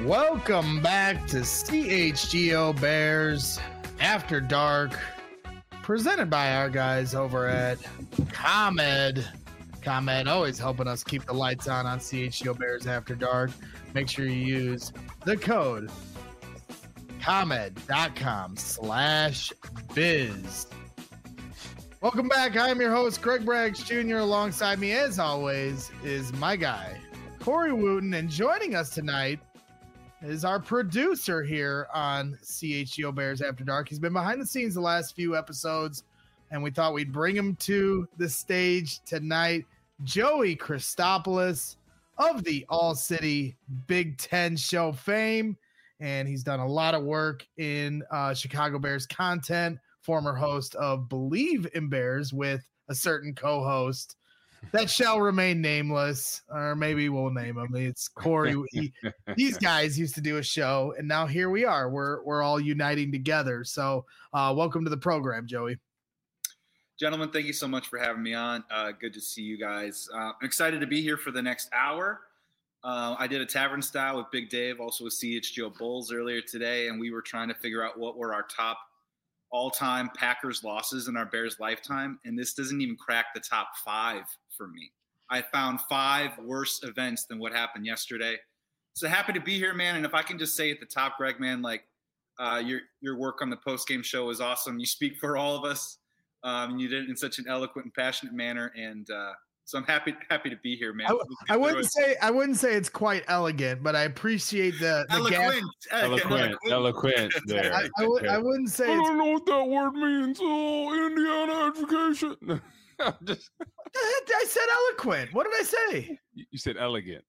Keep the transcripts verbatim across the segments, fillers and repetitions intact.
Welcome back to C H G O Bears After Dark, presented by our guys over at ComEd. ComEd always helping us keep the lights on on C H G O Bears After Dark. Make sure you use the code ComEd.com slash biz. Welcome back. I'm your host, Greg Braggs Junior Alongside me, as always, is my guy, Corey Wooten. And joining us tonight is our producer here on C H G O Bears After Dark. He's been behind the scenes the last few episodes, and we thought we'd bring him to the stage tonight. Joey Christopoulos of the All City Big Ten Show fame, and he's done a lot of work in uh, Chicago Bears content, former host of Believe in Bears with a certain co-host that shall remain nameless, or maybe we'll name him. It's Corey. He, these guys used to do a show, and now here we are. We're we're all uniting together. So, uh, welcome to the program, Joey. Gentlemen, thank you so much for having me on. Uh, good to see you guys. Uh, I'm excited to be here for the next hour. Uh, I did a tavern style with Big Dave, also with C H G O Bulls earlier today, and we were trying to figure out what were our top all-time Packers losses in our Bears lifetime, and this doesn't even crack the top five for me. I found five worse events than what happened yesterday. So happy to be here, man. And if I can just say at the top, Greg, man, like uh, your your work on the post-game show was awesome. You speak for all of us. Um, you did it in such an eloquent and passionate manner, and uh, so I'm happy happy to be here, man. I, I wouldn't say I wouldn't say it's quite elegant, but I appreciate the, the eloquent, gap. eloquent, eloquent. There. I, I, would, I wouldn't say. I It's, don't know what that word means. Oh, Indiana education. Just, I said eloquent. What did I say? you said elegant.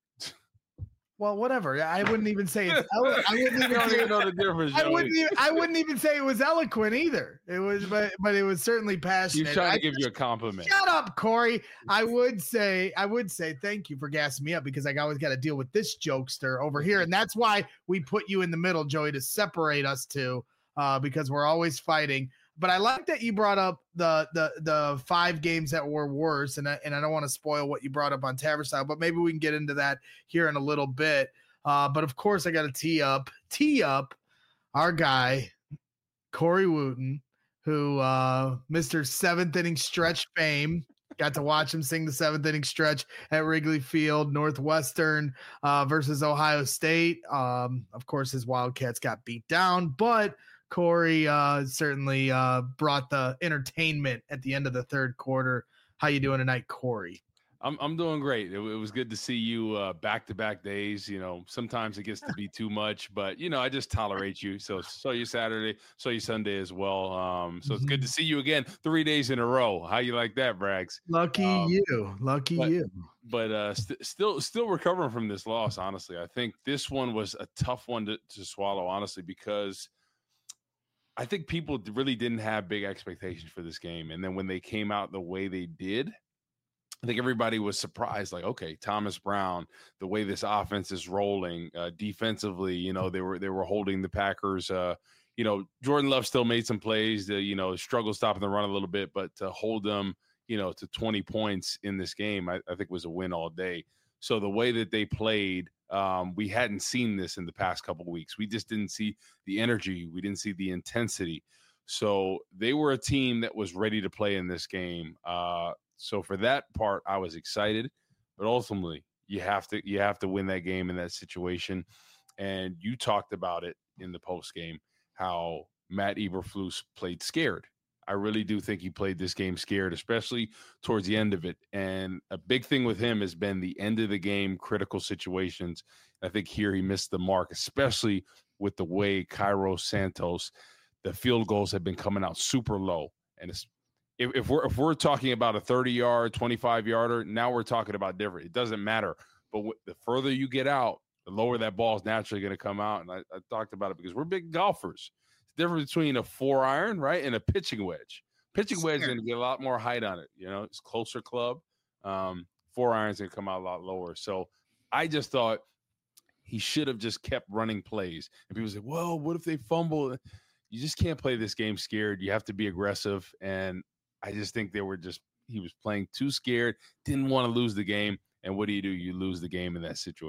Well, whatever. I wouldn't even say it's. Elo- I wouldn't even, I don't say, even know the difference. I Joey. wouldn't. Even, I wouldn't even say it was eloquent either. It was, but but it was certainly passionate. He's trying to I give just, you a compliment. Shut up, Corey. I would say. I would say thank you for gassing me up, because I always got to deal with this jokester over here, and that's why we put you in the middle, Joey, to separate us two, uh, because we're always fighting. But I like that you brought up the the the five games that were worse, and I, and I don't want to spoil what you brought up on Tavern Style, but maybe we can get into that here in a little bit. Uh, but of course, I got to tee up tee up our guy Corey Wooten, who uh, Mister Seventh Inning Stretch fame. Got to watch him sing the seventh inning stretch at Wrigley Field. Northwestern uh, versus Ohio State. Um, of course, his Wildcats got beat down, but Corey uh, certainly uh, brought the entertainment at the end of the third quarter. How you doing tonight, Corey? I'm I'm doing great. It, it was good to see you uh, back-to-back days. You know, sometimes it gets to be too much, but you know, I just tolerate you. So saw you Saturday, saw you Sunday as well. Um, so it's good to see you again, three days in a row. How you like that, Braggs? Lucky um, you, lucky but, you. But uh, st- still, still recovering from this loss. Honestly, I think this one was a tough one to, to swallow. Honestly, because I think people really didn't have big expectations for this game, and then when they came out the way they did, I think everybody was surprised, like, okay, Thomas Brown, the way this offense is rolling uh, defensively, you know, they were they were holding the Packers. Uh, you know, Jordan Love still made some plays, to, you know, struggled stopping the run a little bit, but to hold them, you know, to twenty points in this game, I, I think was a win all day. So the way that they played, um, we hadn't seen this in the past couple of weeks. We just didn't see the energy. We didn't see the intensity. So they were a team that was ready to play in this game. Uh, So for that part, I was excited, but ultimately you have to you have to win that game in that situation. And you talked about it in the post game, how Matt Eberflus played scared. I really do think he played this game scared, especially towards the end of it. And a big thing with him has been the end of the game, critical situations. I think here he missed the mark, especially with the way Cairo Santos, the field goals have been coming out super low. And it's If, if we're if we're talking about a thirty-yard, twenty-five-yarder, now we're talking about different. It doesn't matter. But w- the further you get out, the lower that ball is naturally going to come out. And I, I talked about it because we're big golfers. It's the difference between a four iron, right, and a pitching wedge. Pitching wedge is going to get a lot more height on it. You know, it's closer club. Um, four irons going to come out a lot lower. So I just thought he should have just kept running plays. And people say, well, what if they fumble? You just can't play this game scared. You have to be aggressive. And I just think they were just – he was playing too scared, didn't want to lose the game. And what do you do? You lose the game in that situation.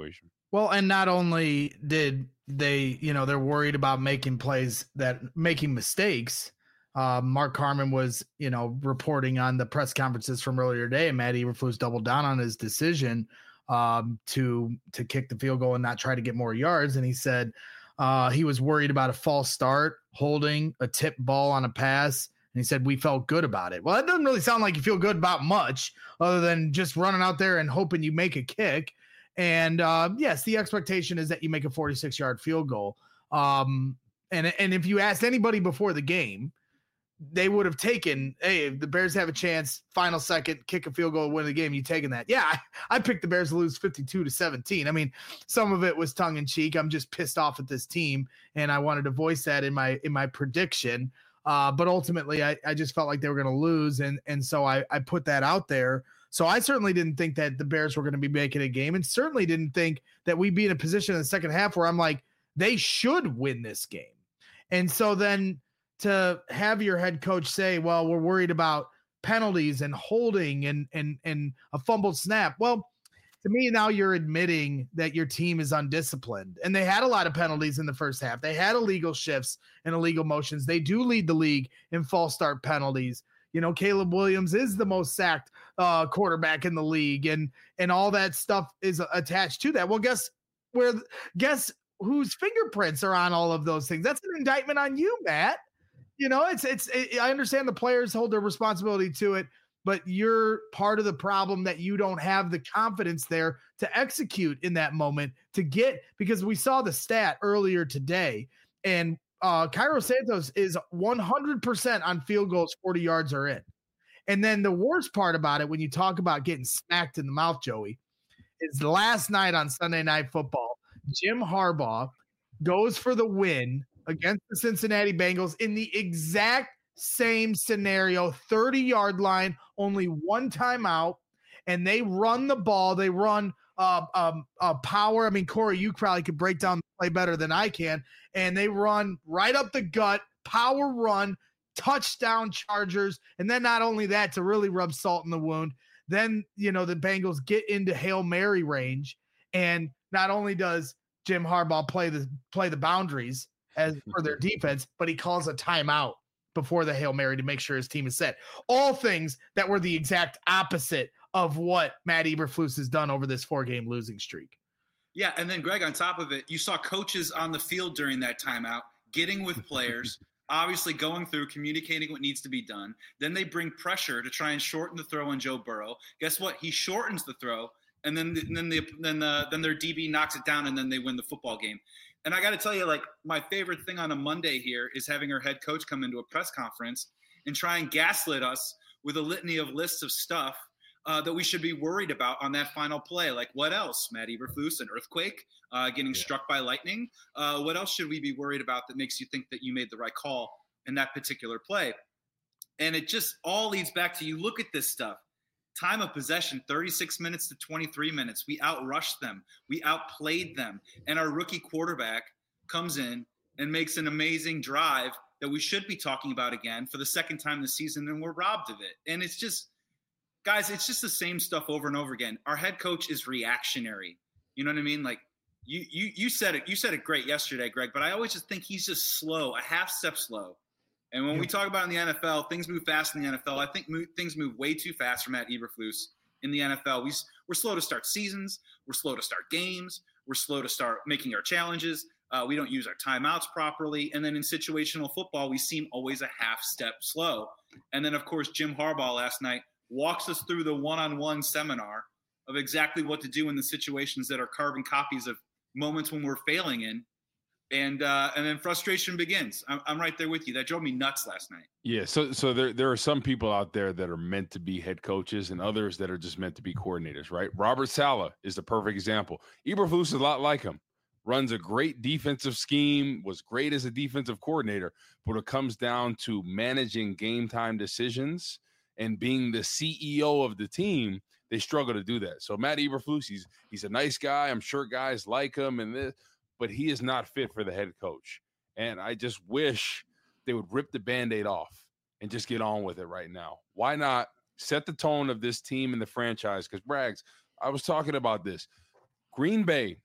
Well, and not only did they, you know, they're worried about making plays that making mistakes. Uh, Mark Carman was, you know, reporting on the press conferences from earlier today, and Matt Eberflus doubled down on his decision um, to to kick the field goal and not try to get more yards. And he said uh, he was worried about a false start, holding a tip ball on a pass. And he said, we felt good about it. Well, that doesn't really sound like you feel good about much other than just running out there and hoping you make a kick. And uh, yes, the expectation is that you make a forty-six yard field goal. Um, and, and if you asked anybody before the game, they would have taken, hey, if the Bears have a chance, final second, kick a field goal, win the game, you taking that. Yeah, I, I picked the Bears to lose fifty-two to seventeen. I mean, some of it was tongue in cheek. I'm just pissed off at this team, and I wanted to voice that in my in my prediction. Uh, but ultimately, I, I just felt like they were going to lose, and and so I, I put that out there. So I certainly didn't think that the Bears were going to be making a game, and certainly didn't think that we'd be in a position in the second half where I'm like, they should win this game. And so then to have your head coach say, well, we're worried about penalties and holding and and and a fumbled snap. Well, to me, now you're admitting that your team is undisciplined. And they had a lot of penalties in the first half. They had illegal shifts and illegal motions. They do lead the league in false start penalties. You know, Caleb Williams is the most sacked uh, quarterback in the league, and and all that stuff is attached to that. Well, guess where? Guess whose fingerprints are on all of those things? That's an indictment on you, Matt. You know, it's it's. It, I understand the players hold their responsibility to it, but you're part of the problem that you don't have the confidence there to execute in that moment to get, because we saw the stat earlier today, and uh, Cairo Santos is one hundred percent on field goals, forty yards are in. And then the worst part about it, when you talk about getting smacked in the mouth, Joey, is last night on Sunday Night Football, Jim Harbaugh goes for the win against the Cincinnati Bengals in the exact same scenario, thirty yard line, only one timeout, and they run the ball. They run uh, um, uh, power. I mean, Corey, you probably could break down the play better than I can. And they run right up the gut, power run, touchdown Chargers. And then not only that, to really rub salt in the wound, then, you know, the Bengals get into Hail Mary range. And not only does Jim Harbaugh play the play the boundaries as for their defense, but he calls a timeout before the Hail Mary to make sure his team is set. All things that were the exact opposite of what Matt Eberflus has done over this four-game losing streak. Yeah, and then, Greg, on top of it, you saw coaches on the field during that timeout getting with players, obviously going through, communicating what needs to be done. Then they bring pressure to try and shorten the throw on Joe Burrow. Guess what? He shortens the throw, and then and then the, then the, then their D B knocks it down, and then they win the football game. And I got to tell you, like, my favorite thing on a Monday here is having our head coach come into a press conference and try and gaslit us with a litany of lists of stuff uh, that we should be worried about on that final play. Like, what else? Matt Eberflus, an earthquake, uh, getting yeah. struck by lightning. Uh, what else should we be worried about that makes you think that you made the right call in that particular play? And it just all leads back to, you look at this stuff. Time of possession, thirty-six minutes to twenty-three minutes. We outrushed them. We outplayed them. And our rookie quarterback comes in and makes an amazing drive that we should be talking about again for the second time this season, and we're robbed of it. And it's just, guys, it's just the same stuff over and over again. Our head coach is reactionary. You know what I mean? Like, you you you said it. You said it great yesterday, Greg, but I always just think he's just slow, a half step slow. And when we talk about in the N F L, things move fast in the N F L. I think move, things move way too fast for Matt Eberflus in the N F L. We, we're slow to start seasons. We're slow to start games. We're slow to start making our challenges. Uh, we don't use our timeouts properly. And then in situational football, we seem always a half step slow. And then, of course, Jim Harbaugh last night walks us through the one-on-one seminar of exactly what to do in the situations that are carbon copies of moments when we're failing in. And uh, and then frustration begins. I'm, I'm right there with you. That drove me nuts last night. Yeah, so so there there are some people out there that are meant to be head coaches and others that are just meant to be coordinators, right? Robert Saleh is the perfect example. Eberflus is a lot like him. Runs a great defensive scheme, was great as a defensive coordinator, but it comes down to managing game time decisions and being the C E O of the team. They struggle to do that. So Matt Eberflus, he's he's a nice guy. I'm sure guys like him and this, but he is not fit for the head coach. And I just wish they would rip the Band-Aid off and just get on with it right now. Why not set the tone of this team and the franchise? Because, Braggs, I was talking about this. Green Bay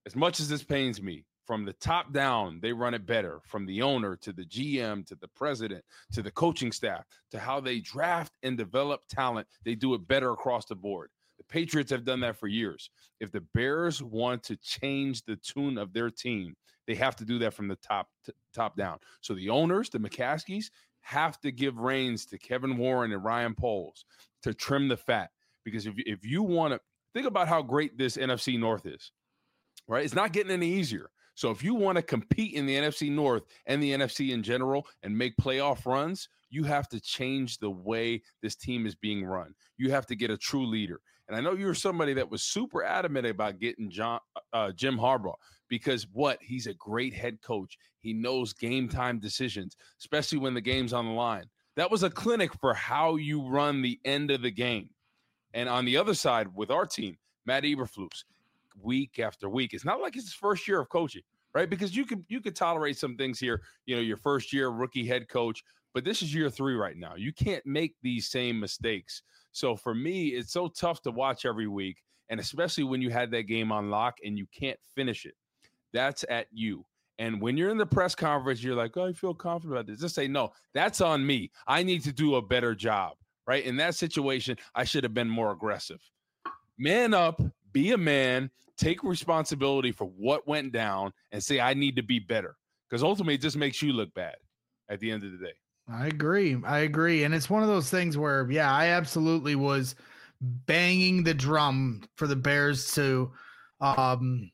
as much as this pains me, from the top down, they run it better. From the owner to the G M to the president to the coaching staff to how they draft and develop talent, they do it better across the board. The Patriots have done that for years. If the Bears want to change the tune of their team, they have to do that from the top to, top down. So the owners, the McCaskies, have to give reins to Kevin Warren and Ryan Poles to trim the fat. Because if, if you want to think about how great this N F C North is, right? It's not getting any easier. So if you want to compete in the N F C North and the N F C in general and make playoff runs, you have to change the way this team is being run. You have to get a true leader. And I know you're somebody that was super adamant about getting John, uh, Jim Harbaugh, because what? He's a great head coach. He knows game time decisions, especially when the game's on the line. That was a clinic for how you run the end of the game. And on the other side with our team, Matt Eberflus, week after week. It's not like it's his first year of coaching, right? Because you could you could tolerate some things here, you know, your first year rookie head coach, but this is year three right now. You can't make these same mistakes. So for me, it's so tough to watch every week, and especially when you had that game on lock and you can't finish it. That's at you. And when you're in the press conference, you're like, oh, I feel confident about this. Just say, no, that's on me. I need to do a better job, right? In that situation, I should have been more aggressive. Man up, be a man, take responsibility for what went down, and say, I need to be better. Because ultimately, it just makes you look bad at the end of the day. I agree. I agree. And it's one of those things where, yeah, I absolutely was banging the drum for the Bears to um,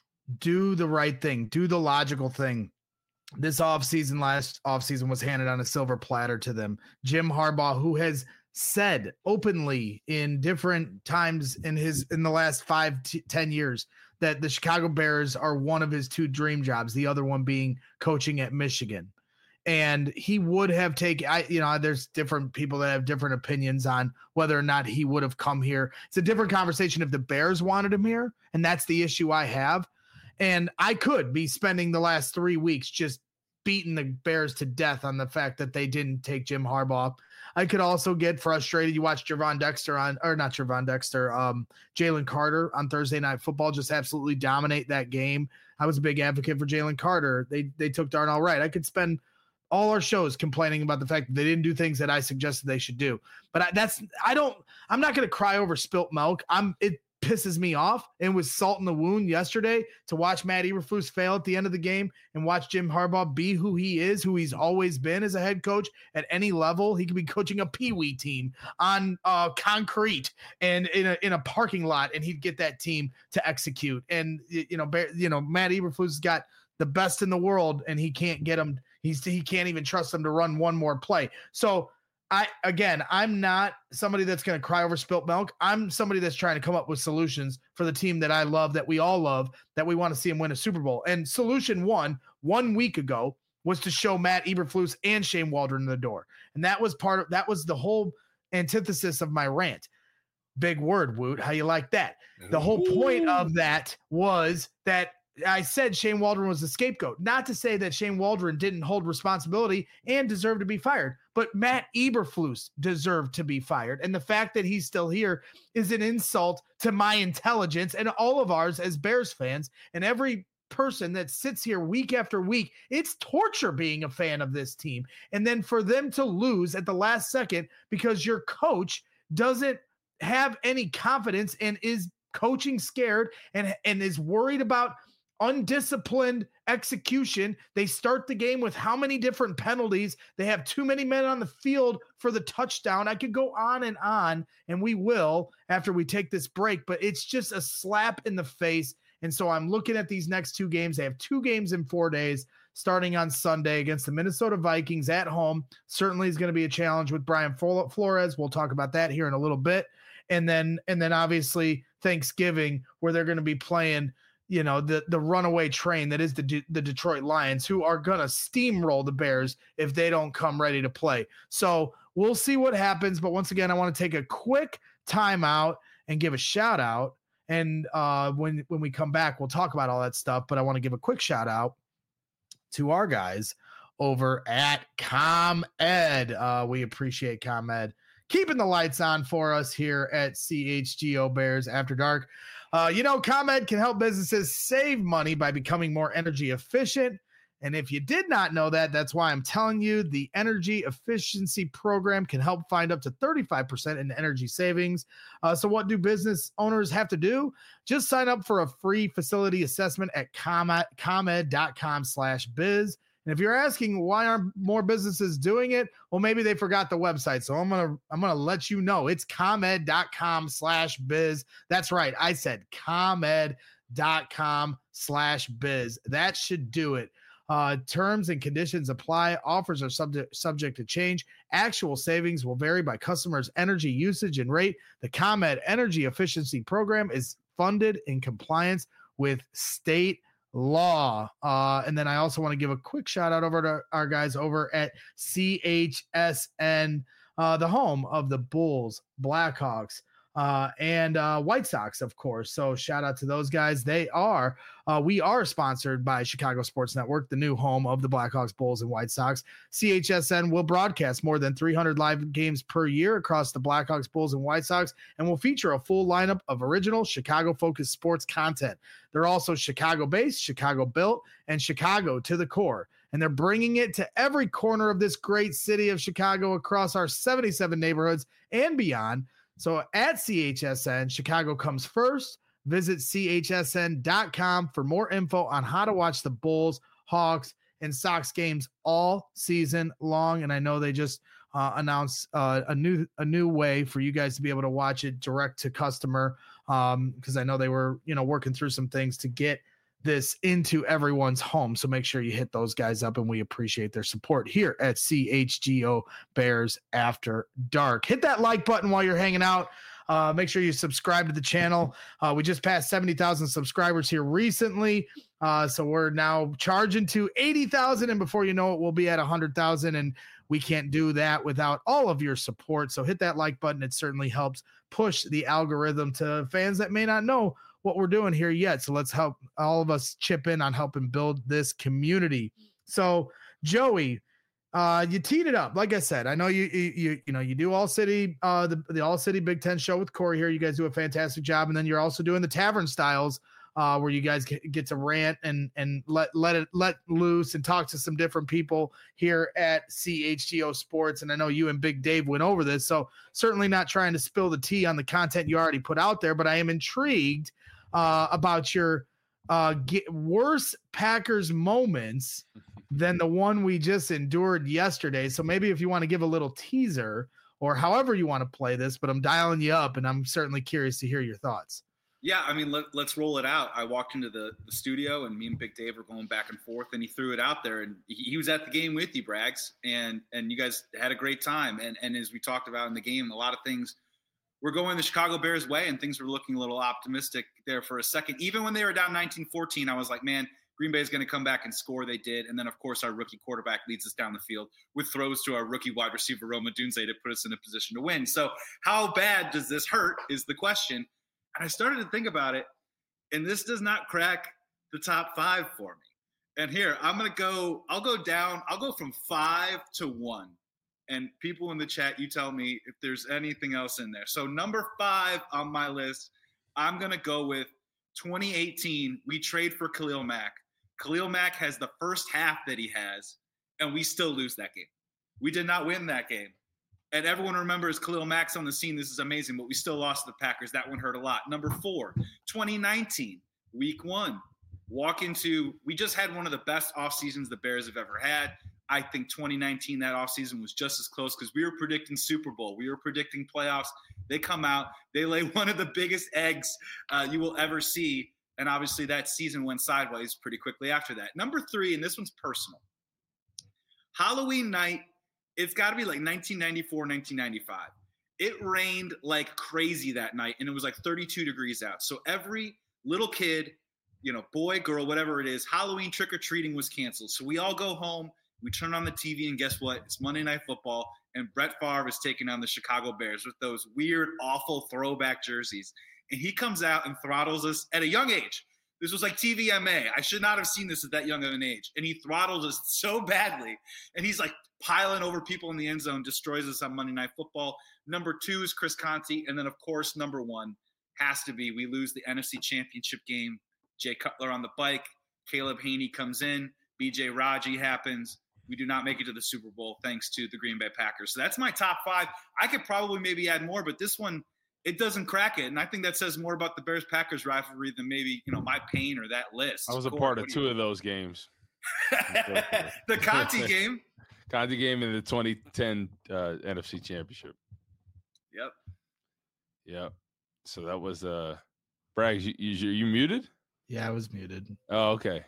do the right thing, do the logical thing. This offseason, last offseason, was handed on a silver platter to them. Jim Harbaugh, who has said openly in different times in his in the last five to ten years that the Chicago Bears are one of his two dream jobs, the other one being coaching at Michigan. And he would have taken, I, you know, there's different people that have different opinions on whether or not he would have come here. It's a different conversation if the Bears wanted him here, and that's the issue I have. And I could be spending the last three weeks just beating the Bears to death on the fact that they didn't take Jim Harbaugh. I could also get frustrated. You watch Javon Dexter on, or not Javon Dexter, um, Jalen Carter on Thursday Night Football just absolutely dominate that game. I was a big advocate for Jalen Carter. They they took Darnell Wright. I could spend all our shows complaining about the fact that they didn't do things that I suggested they should do. But I, that's, I don't, I'm not going to cry over spilt milk. I'm, it pisses me off. And was salt in the wound yesterday to watch Matt Eberflus fail at the end of the game and watch Jim Harbaugh be who he is, who he's always been as a head coach at any level. He could be coaching a peewee team on uh, concrete and in a, in a parking lot, and he'd get that team to execute. And, you know, you know, Matt Eberflus has got the best in the world, and he can't get them. He's he can't even trust them to run one more play. So I again, I'm not somebody that's going to cry over spilt milk. I'm somebody that's trying to come up with solutions for the team that I love, that we all love, that we want to see him win a Super Bowl. And solution one, one week ago, was to show Matt Eberflus and Shane Waldron the door. And that was part of that was the whole antithesis of my rant. Big word, Woot. How you like that? The whole point of that was that I said Shane Waldron was the scapegoat. Not to say that Shane Waldron didn't hold responsibility and deserved to be fired, but Matt Eberflus deserved to be fired. And the fact that he's still here is an insult to my intelligence and all of ours as Bears fans. And every person that sits here week after week, it's torture being a fan of this team. And then for them to lose at the last second because your coach doesn't have any confidence and is coaching scared and, and is worried about undisciplined execution. They start the game with how many different penalties? They have too many men on the field for the touchdown. I could go on and on, and we will after we take this break, but it's just a slap in the face. And so I'm looking at these next two games. They have two games in four days, starting on Sunday against the Minnesota Vikings at home. Certainly is going to be a challenge with Brian Flores. We'll talk about that here in a little bit. And then, and then obviously Thanksgiving, where they're going to be playing, you know, the, the runaway train that is the, D- the Detroit Lions, who are going to steamroll the Bears if they don't come ready to play. So we'll see what happens. But once again, I want to take a quick timeout and give a shout out. And uh, when, when we come back, we'll talk about all that stuff. But I want to give a quick shout out to our guys over at ComEd. Uh, we appreciate ComEd keeping the lights on for us here at C H G O Bears After Dark. Uh, you know, ComEd can help businesses save money by becoming more energy efficient. And if you did not know that, that's why I'm telling you the energy efficiency program can help find up to thirty-five percent in energy savings. Uh, so what do business owners have to do? Just sign up for a free facility assessment at ComEd, ComEd.com slash biz. And if you're asking why aren't more businesses doing it, well, maybe they forgot the website. So I'm gonna I'm gonna let you know it's ComEd.com slash biz. That's right. I said ComEd.com slash biz. That should do it. Uh, terms and conditions apply. Offers are subject subject to change. Actual savings will vary by customers' energy usage and rate. The ComEd Energy Efficiency Program is funded in compliance with state law. Uh, and then I also want to give a quick shout out over to our guys over at C H S N, uh, the home of the Bulls, Blackhawks, uh, and uh, White Sox, of course. So shout out to those guys. They are, uh, we are sponsored by Chicago Sports Network, the new home of the Blackhawks, Bulls, and White Sox. C H S N will broadcast more than three hundred live games per year across the Blackhawks, Bulls, and White Sox, and will feature a full lineup of original Chicago-focused sports content. They're also Chicago-based, Chicago-built, and Chicago to the core. And they're bringing it to every corner of this great city of Chicago across our seventy-seven neighborhoods and beyond. So at C H S N, Chicago comes first. Visit C H S N dot com for more info on how to watch the Bulls, Hawks, and Sox games all season long. And I know they just uh, announced uh, a new a new way for you guys to be able to watch it direct to customer, um, because I know they were you know working through some things to get this into everyone's home. So make sure you hit those guys up, and we appreciate their support here at C H G O Bears After Dark. Hit that like button while you're hanging out. Uh, make sure you subscribe to the channel. Uh, we just passed seventy thousand subscribers here recently. Uh, so we're now charging to eighty thousand, and before you know it, we'll be at one hundred thousand, and we can't do that without all of your support. So hit that like button. It certainly helps push the algorithm to fans that may not know what we're doing here yet. So let's help all of us chip in on helping build this community. So Joey, uh, you teed it up. Like I said, I know you, you, you, you know, you do All City, uh, the, the All City Big Ten show with Corey here. You guys do a fantastic job. And then you're also doing the Tavern Styles, uh, where you guys get, get to rant and, and let, let it, let loose and talk to some different people here at C H G O Sports. And I know you and Big Dave went over this, so certainly not trying to spill the tea on the content you already put out there, but I am intrigued Uh, about your uh, get worse Packers moments than the one we just endured yesterday. So maybe if you want to give a little teaser or however you want to play this, but I'm dialing you up, and I'm certainly curious to hear your thoughts. Yeah, I mean, let, let's roll it out. I walked into the, the studio, and me and Big Dave were going back and forth, and he threw it out there, and he, he was at the game with you, Braggs, and and you guys had a great time. And and as we talked about in the game, a lot of things we're going the Chicago Bears way, and things were looking a little optimistic there for a second. Even when they were down nineteen fourteen, I was like, man, Green Bay is going to come back and score. They did. And then, of course, our rookie quarterback leads us down the field with throws to our rookie wide receiver, Rome Odunze, to put us in a position to win. So how bad does this hurt is the question. And I started to think about it, and this does not crack the top five for me. And here, I'm going to go – I'll go down. I'll go from five to one. And people in the chat, you tell me if there's anything else in there. So number five on my list, I'm going to go with twenty eighteen. We trade for Khalil Mack. Khalil Mack has the first half that he has, and we still lose that game. We did not win that game. And everyone remembers Khalil Mack's on the scene. This is amazing, but we still lost to the Packers. That one hurt a lot. Number four, twenty nineteen, week one. Walk into – we just had one of the best off seasons the Bears have ever had. I think twenty nineteen, that offseason was just as close because we were predicting Super Bowl. We were predicting playoffs. They come out. They lay one of the biggest eggs uh, you will ever see. And obviously that season went sideways pretty quickly after that. Number three, and this one's personal. Halloween night, it's got to be like nineteen ninety-four, nineteen ninety-five. It rained like crazy that night, and it was like thirty-two degrees out. So every little kid, you know, boy, girl, whatever it is, Halloween trick-or-treating was canceled. So we all go home. We turn on the T V, and guess what? It's Monday Night Football, and Brett Favre is taking on the Chicago Bears with those weird, awful throwback jerseys. And he comes out and throttles us at a young age. This was like T V M A. I should not have seen this at that young of an age. And he throttled us so badly. And he's like piling over people in the end zone, destroys us on Monday Night Football. Number two is Chris Conte. And then, of course, number one has to be we lose the N F C Championship game. Jay Cutler on the bike. Caleb Haney comes in. B J Raji happens. We do not make it to the Super Bowl thanks to the Green Bay Packers. So that's my top five. I could probably maybe add more, but this one, it doesn't crack it. And I think that says more about the Bears-Packers rivalry than maybe, you know, my pain or that list. I was a Corey, part of two of those games. The Conti game. Conti game in the twenty ten uh, N F C Championship. Yep. Yep. So that was uh, Bragg. You, you you muted? Yeah, I was muted. Oh, okay.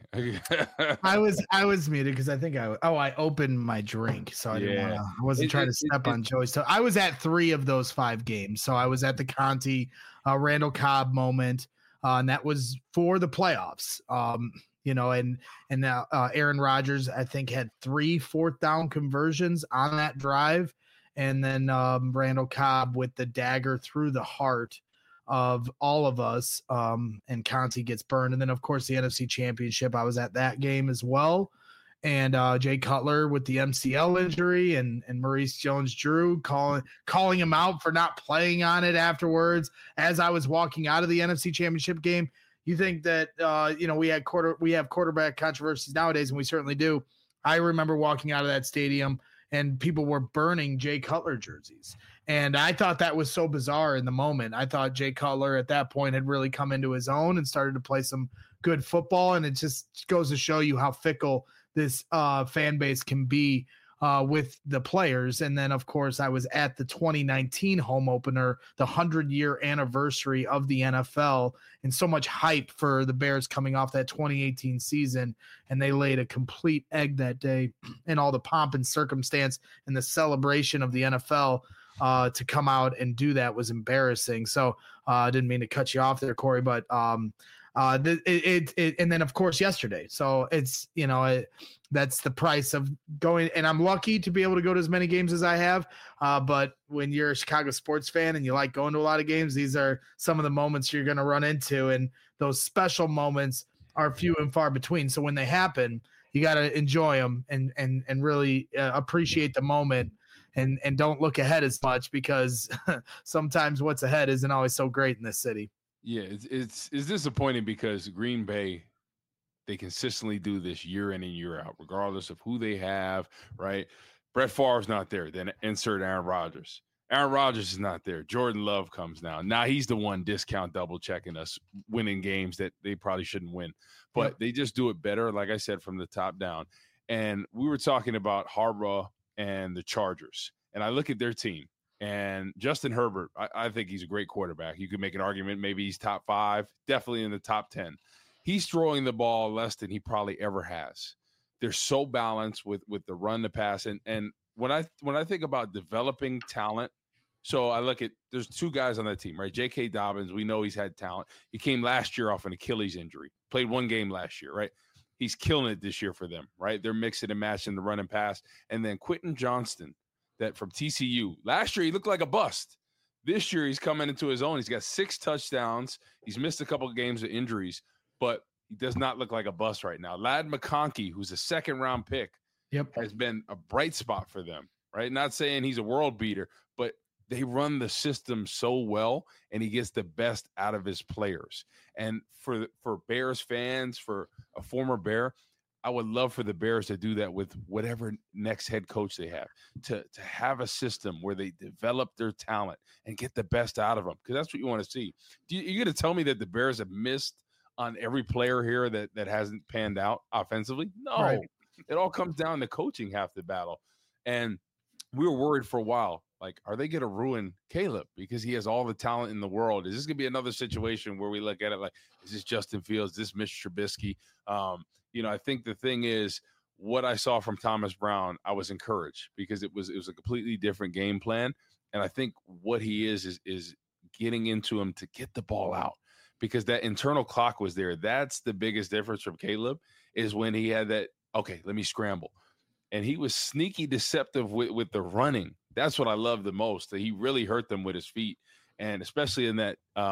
I was I was muted because I think I oh I opened my drink, so I didn't Yeah. want to. I wasn't It- trying it- to step it- on Joey's toe. I was at three of those five games, so I was at the Conti uh, Randall Cobb moment, uh, and that was for the playoffs. Um, you know, and and now uh, Aaron Rodgers I think had three fourth down conversions on that drive, and then um, Randall Cobb with the dagger through the heart of all of us, um, and Conti gets burned. And then, of course, the N F C Championship, I was at that game as well. And uh, Jay Cutler with the M C L injury and and Maurice Jones-Drew calling calling him out for not playing on it afterwards. As I was walking out of the N F C Championship game, you think that uh, you know we had quarter we have quarterback controversies nowadays, and we certainly do. I remember walking out of that stadium and people were burning Jay Cutler jerseys. And I thought that was so bizarre in the moment. I thought Jay Cutler at that point had really come into his own and started to play some good football. And it just goes to show you how fickle this uh, fan base can be uh, with the players. And then, of course, I was at the twenty nineteen home opener, the hundred-year anniversary of the N F L, and so much hype for the Bears coming off that twenty eighteen season. And they laid a complete egg that day, and all the pomp and circumstance and the celebration of the N F L uh, to come out and do that was embarrassing. So I uh, didn't mean to cut you off there, Corey, but um, uh, it, it, it, and then of course yesterday. So it's, you know, it, that's the price of going. And I'm lucky to be able to go to as many games as I have. Uh, but when you're a Chicago sports fan and you like going to a lot of games, these are some of the moments you're going to run into. And those special moments are few and far between. So when they happen, you got to enjoy them and, and, and really uh, appreciate the moment. And and don't look ahead as much, because sometimes what's ahead isn't always so great in this city. Yeah, it's, it's it's disappointing because Green Bay, they consistently do this year in and year out, regardless of who they have, right? Brett Favre's not there. Then insert Aaron Rodgers. Aaron Rodgers is not there. Jordan Love comes now. Now he's the one discount double checking us, winning games that they probably shouldn't win. But Yep. they just do it better, like I said, from the top down. And we were talking about Harbaugh and the Chargers. And I look at their team, and Justin Herbert, I, I think he's a great quarterback. You could make an argument, maybe he's top five, definitely in the top ten. He's throwing the ball less than he probably ever has. They're so balanced with with the run, the pass. And and when I when I think about developing talent, so I look at, there's two guys on that team, right? J K. Dobbins, we know he's had talent. He came last year off an Achilles injury, played one game last year, right? He's killing it this year for them, right? They're mixing and matching the run and pass. And then Quentin Johnston, that from T C U. Last year, he looked like a bust. This year, he's coming into his own. He's got six touchdowns. He's missed a couple of games of injuries, but he does not look like a bust right now. Ladd McConkey, who's a second-round pick, Yep. has been a bright spot for them, right? Not saying he's a world beater, but they run the system so well, and he gets the best out of his players. And for for Bears fans, for a former Bear, I would love for the Bears to do that with whatever next head coach they have, to, to have a system where they develop their talent and get the best out of them, because that's what you want to see. Do you, you're going to tell me that the Bears have missed on every player here that, that hasn't panned out offensively? No. Right. It all comes down to coaching half the battle. And we were worried for a while, like, are they going to ruin Caleb because he has all the talent in the world? Is this going to be another situation where we look at it like, is this Justin Fields, is this Mitch Trubisky? Um, you know, I think the thing is, what I saw from Thomas Brown, I was encouraged because it was it was a completely different game plan. And I think what he is is is getting into him to get the ball out, because that internal clock was there. That's the biggest difference from Caleb, is when he had that, okay, let me scramble. And he was sneaky deceptive with, with the running. That's what I love the most, that he really hurt them with his feet. And especially in that um,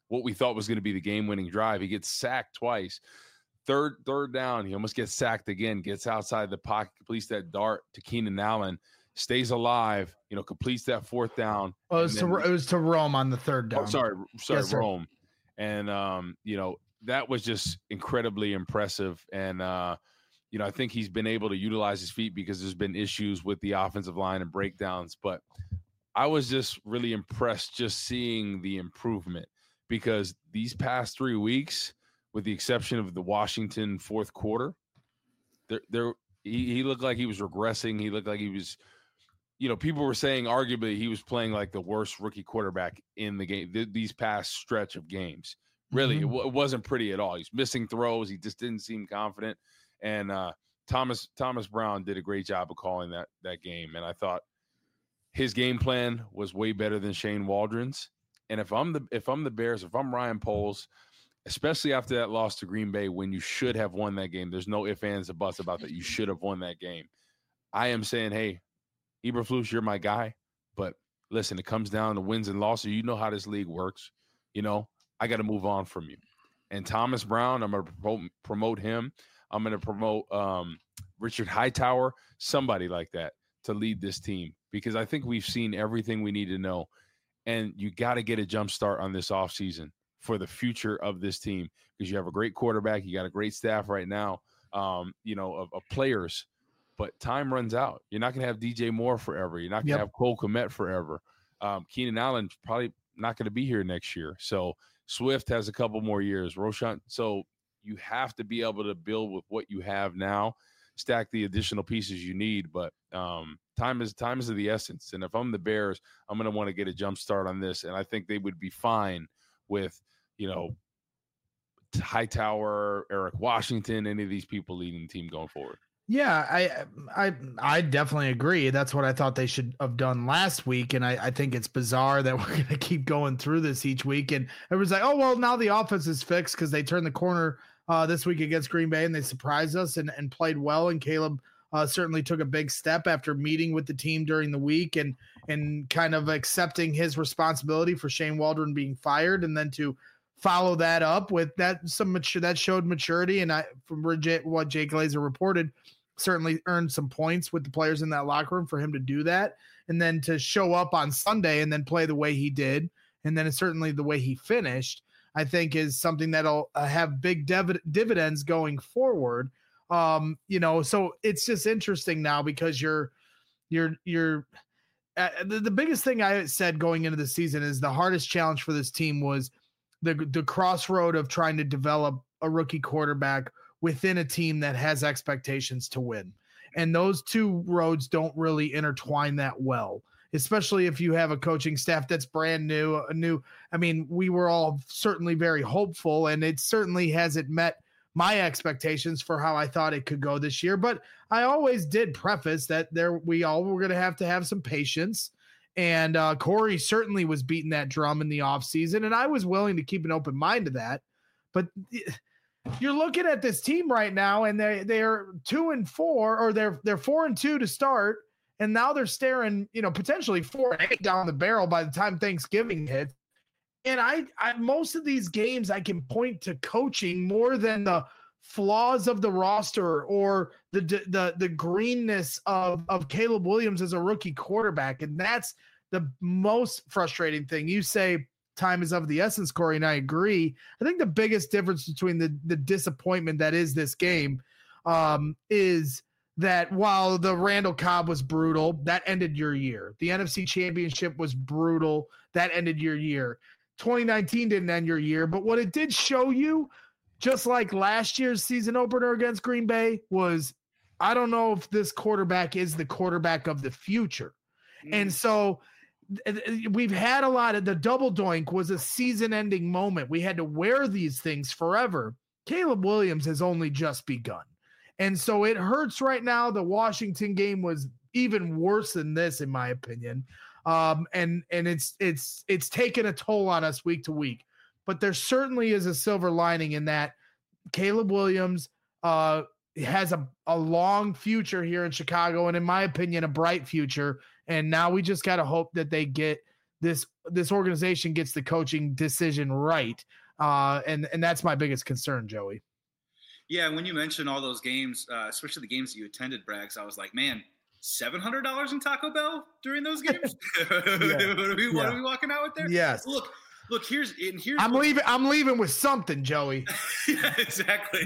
what we thought was going to be the game-winning drive. He gets sacked twice. Third, third down, he almost gets sacked again, gets outside the pocket, completes that dart to Keenan Allen, stays alive, you know, completes that fourth down. Oh, it was, then, to, it was to Rome on the third down. Oh, sorry, sorry, yes, Rome. And, um, you know, that was just incredibly impressive. And, uh, you know, I think he's been able to utilize his feet because there's been issues with the offensive line and breakdowns. But I was just really impressed just seeing the improvement, because these past three weeks, with the exception of the Washington fourth quarter, there, there he, he looked like he was regressing. He looked like he was, you know, people were saying arguably he was playing like the worst rookie quarterback in the game, th- these past stretch of games. Really, mm-hmm. it, w- it wasn't pretty at all. He's missing throws. He just didn't seem confident. And uh, Thomas Thomas Brown did a great job of calling that that game. And I thought his game plan was way better than Shane Waldron's. And if I'm the if I'm the Bears, if I'm Ryan Poles, especially after that loss to Green Bay, when you should have won that game, there's no ifs, ands, or buts about that. You should have won that game. I am saying, hey, Eberflus, you're my guy. But listen, it comes down to wins and losses. You know how this league works. You know, I got to move on from you. And Thomas Brown, I'm going to promote, promote him. I'm going to promote um, Richard Hightower, somebody like that, to lead this team, because I think we've seen everything we need to know. And you got to get a jump start on this offseason for the future of this team, because you have a great quarterback. You got a great staff right now, um, you know, of, of players. But time runs out. You're not going to have D J Moore forever. You're not going to yep. have Cole Kmet forever. Um, Keenan Allen's probably not going to be here next year. So Swift has a couple more years. Roschon. So you have to be able to build with what you have now, stack the additional pieces you need. But um, time is time is of the essence. And if I'm the Bears, I'm going to want to get a jump start on this. And I think they would be fine with, you know, Hightower, Eric Washington, any of these people leading the team going forward. Yeah, I, I, I definitely agree. That's what I thought they should have done last week. And I, I think it's bizarre that we're going to keep going through this each week. And everyone's like, oh, well, now the offense is fixed because they turned the corner uh, this week against Green Bay and they surprised us and, and played well. And Caleb uh, certainly took a big step after meeting with the team during the week and, and kind of accepting his responsibility for Shane Waldron being fired, and then to follow that up with that, some mature, that showed maturity. And I, from what Jay Glazer reported, certainly earned some points with the players in that locker room for him to do that. And then to show up on Sunday and then play the way he did, and then it's certainly the way he finished, I think is something that'll uh, have big div- dividends going forward. Um, you know, so it's just interesting now because you're, you're, you're, uh, the, the biggest thing I said going into the season is the hardest challenge for this team was the, the crossroad of trying to develop a rookie quarterback within a team that has expectations to win. And those two roads don't really intertwine that well, especially if you have a coaching staff that's brand new, a new, I mean, we were all certainly very hopeful, and it certainly hasn't met my expectations for how I thought it could go this year. But I always did preface that there, we all were going to have to have some patience. And uh, Corey certainly was beating that drum in the offseason, and I was willing to keep an open mind to that. But you're looking at this team right now, and they they're two and four, or they're they're four and two to start, and now they're staring, you know, potentially four and eight down the barrel by the time Thanksgiving hits. And I, I most of these games I can point to coaching more than the flaws of the roster or the the the greenness of of Caleb Williams as a rookie quarterback, and that's the most frustrating thing. You say time is of the essence, Corey, and I agree. I think the biggest difference between the, the disappointment that is this game um, is that while the Randall Cobb was brutal, that ended your year. The N F C Championship was brutal. That ended your year. twenty nineteen didn't end your year, but what it did show you, just like last year's season opener against Green Bay, was I don't know if this quarterback is the quarterback of the future. Mm. And so we've had a lot of the double doink was a season ending moment. We had to wear these things forever. Caleb Williams has only just begun. And so it hurts right now. The Washington game was even worse than this, in my opinion. Um, and, and it's, it's, it's taken a toll on us week to week, but there certainly is a silver lining in that Caleb Williams uh, has a, a long future here in Chicago. And in my opinion, a bright future. And now we just got to hope that they get this this organization gets the coaching decision right. Uh, and, and that's my biggest concern, Joey. Yeah, when you mentioned all those games, uh, especially the games that you attended, Braggs, I was like, man, seven hundred dollars in Taco Bell during those games? yeah. what, are we, what yeah. are we walking out with there? Yes. Look, look, here's and here's I'm leaving I'm leaving with something, Joey. yeah, exactly.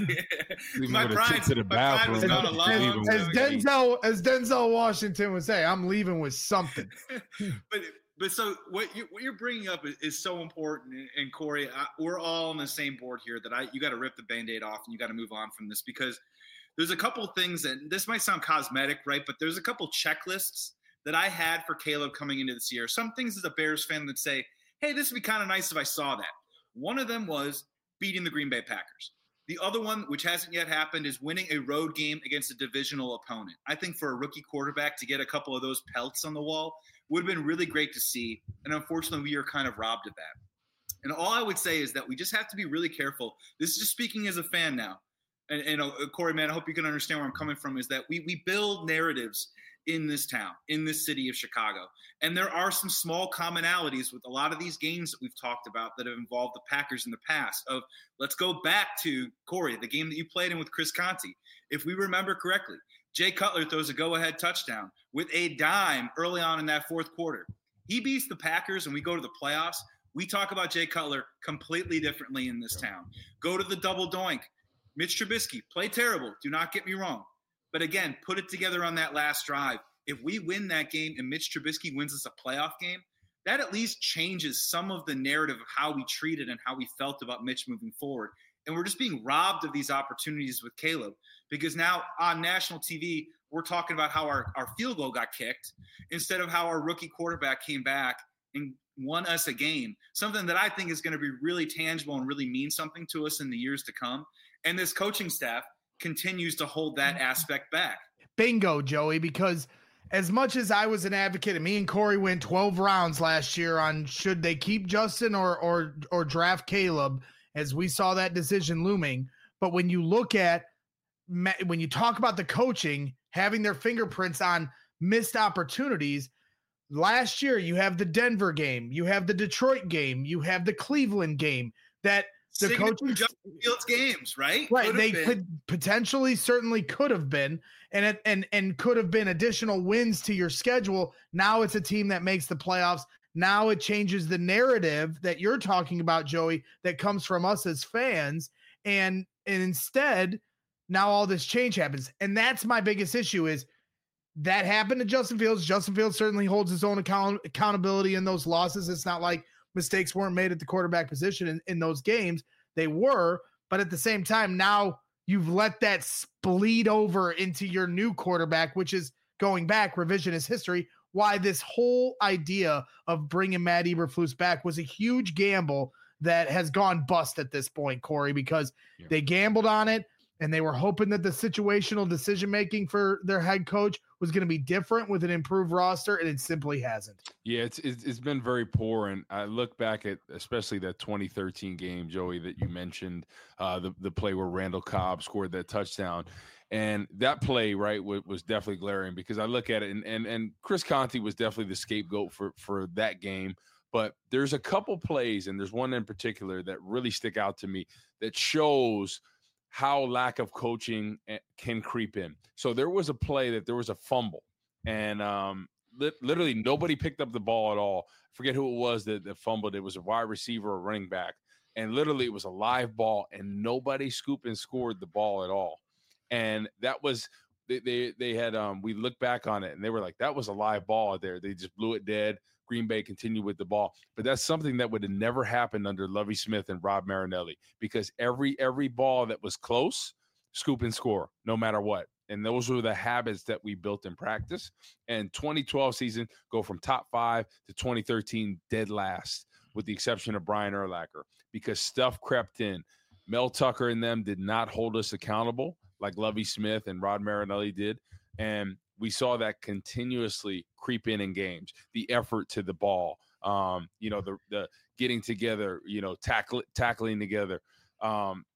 my with a pride, trip to the my pride was bathroom. gone a long As, as time ago. Denzel as Denzel Washington would say, I'm leaving with something. but but so what you what you're bringing up is, is so important. And Corey, I, we're all on the same board here. That I you got to rip the Band-Aid off and you got to move on from this, because there's a couple things that this might sound cosmetic, right? But there's a couple checklists that I had for Caleb coming into this year. Some things as a Bears fan that say, hey, this would be kind of nice if I saw that. One of them was beating the Green Bay Packers. The other one, which hasn't yet happened, is winning a road game against a divisional opponent. I think for a rookie quarterback to get a couple of those pelts on the wall would have been really great to see. And unfortunately, we are kind of robbed of that. And all I would say is that we just have to be really careful. This is just speaking as a fan now. And, and uh, Corey, man, I hope you can understand where I'm coming from, is that we we build narratives in this town, in this city of Chicago. And there are some small commonalities with a lot of these games that we've talked about that have involved the Packers in the past. Of let's go back to, Corey, the game that you played in with Chris Conte. If we remember correctly, Jay Cutler throws a go-ahead touchdown with a dime early on in that fourth quarter. He beats the Packers and we go to the playoffs. We talk about Jay Cutler completely differently in this town. Go to the double doink. Mitch Trubisky, play terrible. Do not get me wrong. But again, put it together on that last drive. If we win that game and Mitch Trubisky wins us a playoff game, that at least changes some of the narrative of how we treated and how we felt about Mitch moving forward. And we're just being robbed of these opportunities with Caleb, because now on national T V, we're talking about how our, our field goal got kicked instead of how our rookie quarterback came back and won us a game, something that I think is going to be really tangible and really mean something to us in the years to come. And this coaching staff continues to hold that aspect back. Bingo, Joey, because as much as I was an advocate, and me and Corey went twelve rounds last year on should they keep Justin or or or draft Caleb, as we saw that decision looming. But when you look at, when you talk about the coaching, having their fingerprints on missed opportunities, last year you have the Denver game, you have the Detroit game, you have the Cleveland game, that the coaching Justin Fields games, right? Right. Could they been. could potentially certainly could have been, and it, and and could have been additional wins to your schedule. Now it's a team that makes the playoffs. Now it changes the narrative that you're talking about, Joey, that comes from us as fans. And and instead, now all this change happens. And that's my biggest issue, is that happened to Justin Fields. Justin Fields certainly holds his own account accountability in those losses. It's not like mistakes weren't made at the quarterback position in, in those games. They were, but at the same time, now you've let that bleed over into your new quarterback, which is going back, revisionist history, why this whole idea of bringing Matt Eberflus back was a huge gamble that has gone bust at this point, Corey, because yeah. they gambled on it. And they were hoping that the situational decision-making for their head coach was going to be different with an improved roster, and it simply hasn't. Yeah, it's, it's it's been very poor. And I look back at especially that twenty thirteen game, Joey, that you mentioned, uh, the, the play where Randall Cobb scored that touchdown. And that play, right, was, was definitely glaring, because I look at it, and and, and Chris Conte was definitely the scapegoat for, for that game. But there's a couple plays, and there's one in particular that really stick out to me that shows – how lack of coaching can creep in. So there was a play that there was a fumble, and um, li- literally nobody picked up the ball at all. I forget who it was that, that fumbled. It was a wide receiver or running back, and literally it was a live ball, and nobody scooped and scored the ball at all. And that was they they, they had um, we looked back on it, and they were like, that was a live ball there. They just blew it dead. Green Bay continued with the ball. But that's something that would have never happened under Lovie Smith and Rob Marinelli, because every every ball that was close, scoop and score, no matter what. And those were the habits that we built in practice. And twenty twelve season, go from top five to twenty thirteen dead last, with the exception of Brian Urlacher, because stuff crept in. Mel Tucker and them did not hold us accountable like Lovie Smith and Rod Marinelli did. And we saw that continuously creep in in games, the effort to the ball, um, you know, the the getting together, you know, tackle, tackling together. Um,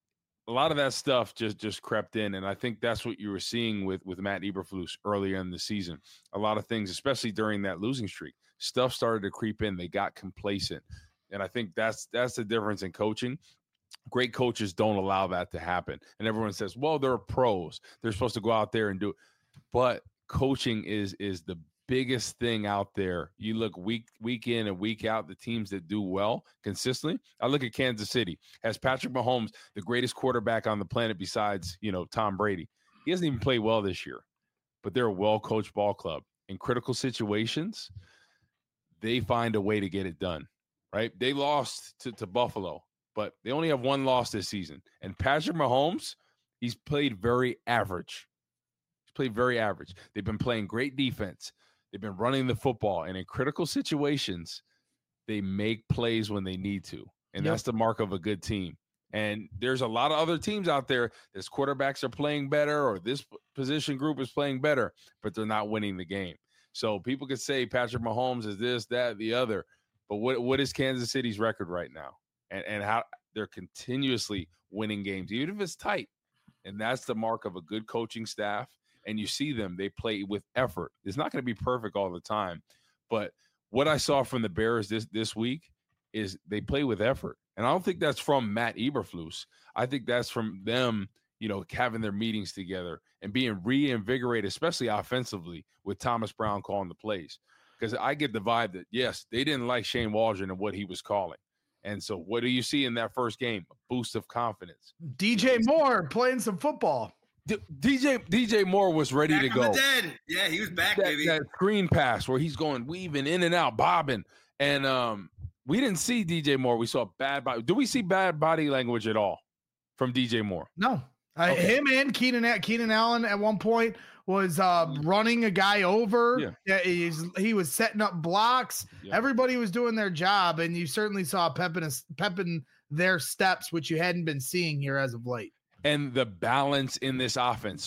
a lot of that stuff just just crept in, and I think that's what you were seeing with with Matt Eberflus earlier in the season. A lot of things, especially during that losing streak, stuff started to creep in. They got complacent, and I think that's that's the difference in coaching. Great coaches don't allow that to happen, and everyone says, "Well, they're pros; they're supposed to go out there and do it." But coaching is is the biggest thing out there. You look week week in and week out, the teams that do well consistently. I look at Kansas City. Has Patrick Mahomes, the greatest quarterback on the planet besides, you know, Tom Brady. He hasn't even played well this year, but they're a well-coached ball club. In critical situations, they find a way to get it done, right? They lost to, to Buffalo, but they only have one loss this season. And Patrick Mahomes, he's played very average. He's played very average. They've been playing great defense. They've been running the football, and in critical situations, they make plays when they need to, and yep. that's the mark of a good team. And there's a lot of other teams out there that's quarterbacks are playing better or this position group is playing better, but they're not winning the game. So people could say Patrick Mahomes is this, that, the other, but what what is Kansas City's record right now? And and how they're continuously winning games, even if it's tight. And that's the mark of a good coaching staff. And you see them, they play with effort. It's not going to be perfect all the time. But what I saw from the Bears this, this week is they play with effort. And I don't think that's from Matt Eberflus. I think that's from them, you know, having their meetings together and being reinvigorated, especially offensively, with Thomas Brown calling the plays. Because I get the vibe that, yes, they didn't like Shane Waldron and what he was calling. And so what do you see in that first game? A boost of confidence. D J Moore playing some football. D J D J Moore was ready back to go. Dead. Yeah, he was back, that, baby. That screen pass where he's going weaving in and out, bobbing. And um, we didn't see D J Moore. We saw bad body. Do we see bad body language at all from D J Moore? No. Uh, okay. Him and Keenan Keenan Allen at one point was uh, running a guy over. Yeah. Yeah, he's, he was setting up blocks. Yeah. Everybody was doing their job, and you certainly saw pep in, a, pep in their steps, which you hadn't been seeing here as of late. And the balance in this offense.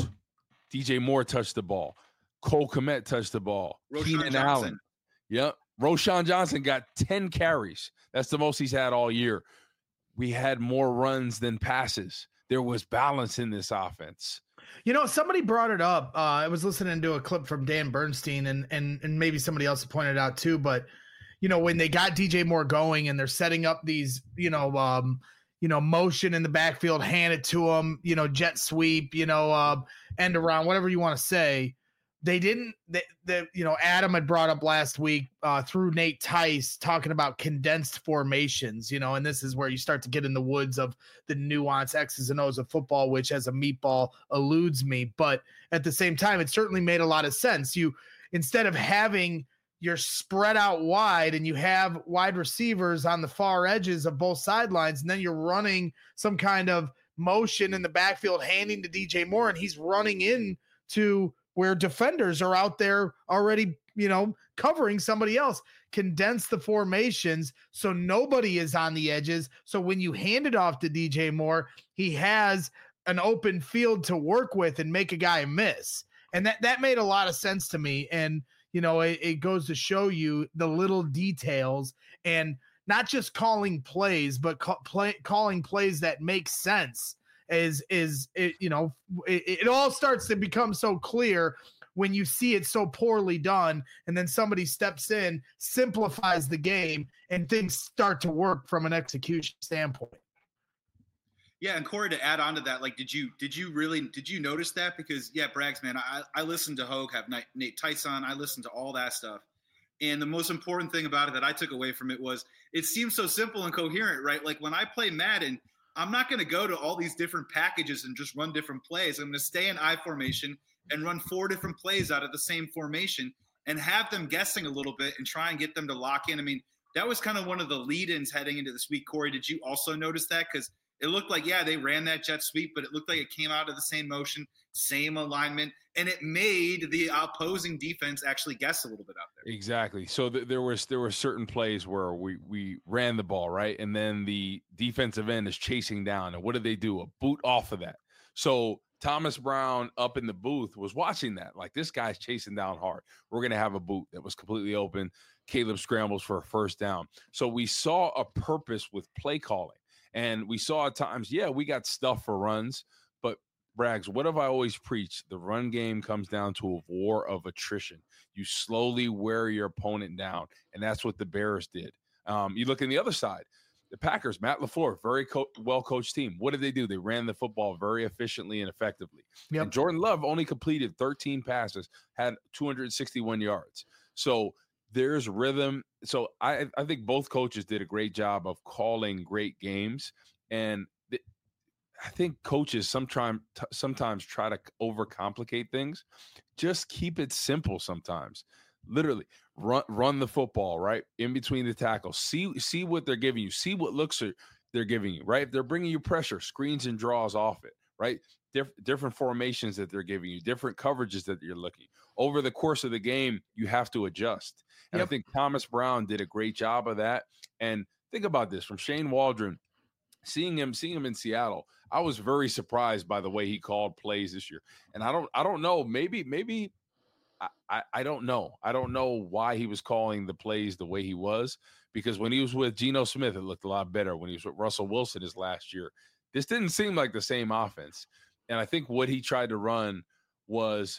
D J Moore touched the ball. Cole Kmet touched the ball. Roschon Keenan Johnson. Allen. Yep. Roschon Johnson got ten carries. That's the most he's had all year. We had more runs than passes. There was balance in this offense. You know, somebody brought it up. Uh, I was listening to a clip from Dan Bernstein, and and and maybe somebody else pointed it out too. But, you know, when they got D J Moore going and they're setting up these, you know, um, you know, motion in the backfield, hand it to him, you know, jet sweep, you know, uh, end around, whatever you want to say. They didn't, they, they, you know, Adam had brought up last week uh, through Nate Tice talking about condensed formations, you know, and this is where you start to get in the woods of the nuance X's and O's of football, which as a meatball eludes me. But at the same time, it certainly made a lot of sense. You, instead of having you're spread out wide and you have wide receivers on the far edges of both sidelines, and then you're running some kind of motion in the backfield, handing to D J Moore, and he's running in to where defenders are out there already, you know, covering somebody else. Condense the formations so nobody is on the edges. So when you hand it off to D J Moore, he has an open field to work with and make a guy miss. And that, that made a lot of sense to me. And, you know, it, it goes to show you the little details and not just calling plays, but call, play, calling plays that make sense is, is it, you know, it, it all starts to become so clear when you see it so poorly done. And then somebody steps in, simplifies the game, and things start to work from an execution standpoint. Yeah, and Corey, to add on to that, like, did you did you really did you notice that? Because yeah, Braggs, man, I I listened to Hogue, have Nate, Nate Tyson, I listened to all that stuff, and the most important thing about it that I took away from it was it seems so simple and coherent, right? Like when I play Madden, I'm not going to go to all these different packages and just run different plays. I'm going to stay in I formation and run four different plays out of the same formation and have them guessing a little bit and try and get them to lock in. I mean, that was kind of one of the lead-ins heading into this week. Corey, did you also notice that? Because it looked like, yeah, they ran that jet sweep, but it looked like it came out of the same motion, same alignment, and it made the opposing defense actually guess a little bit out there. Exactly. So th- there was there were certain plays where we we ran the ball, right? And then the defensive end is chasing down. And what did they do? A boot off of that. So Thomas Brown up in the booth was watching that. Like, this guy's chasing down hard. We're going to have a boot that was completely open. Caleb scrambles for a first down. So we saw a purpose with play calling. And we saw at times, yeah, we got stuff for runs, but Braggs, what have I always preached? The run game comes down to a war of attrition. You slowly wear your opponent down, and that's what the Bears did. Um, you look on the other side, the Packers, Matt LaFleur, very co- well-coached team. What did they do? They ran the football very efficiently and effectively. Yep. And Jordan Love only completed thirteen passes, had two hundred sixty-one yards. So there's rhythm. So I, I think both coaches did a great job of calling great games. And th- I think coaches sometimes t- sometimes try to overcomplicate things. Just keep it simple sometimes. Literally run run the football right in between the tackles. See see what they're giving you. See what looks are they're giving you. Right, if they're bringing you pressure, screens and draws off it. Right, Dif- different formations that they're giving you, different coverages that you're looking. Over the course of the game, you have to adjust. And yep. I think Thomas Brown did a great job of that. And think about this from Shane Waldron. Seeing him, seeing him in Seattle, I was very surprised by the way he called plays this year. And I don't, I don't know. Maybe, maybe. I, I don't know. I don't know why he was calling the plays the way he was, because when he was with Geno Smith, it looked a lot better. When he was with Russell Wilson his last year, this didn't seem like the same offense. And I think what he tried to run was,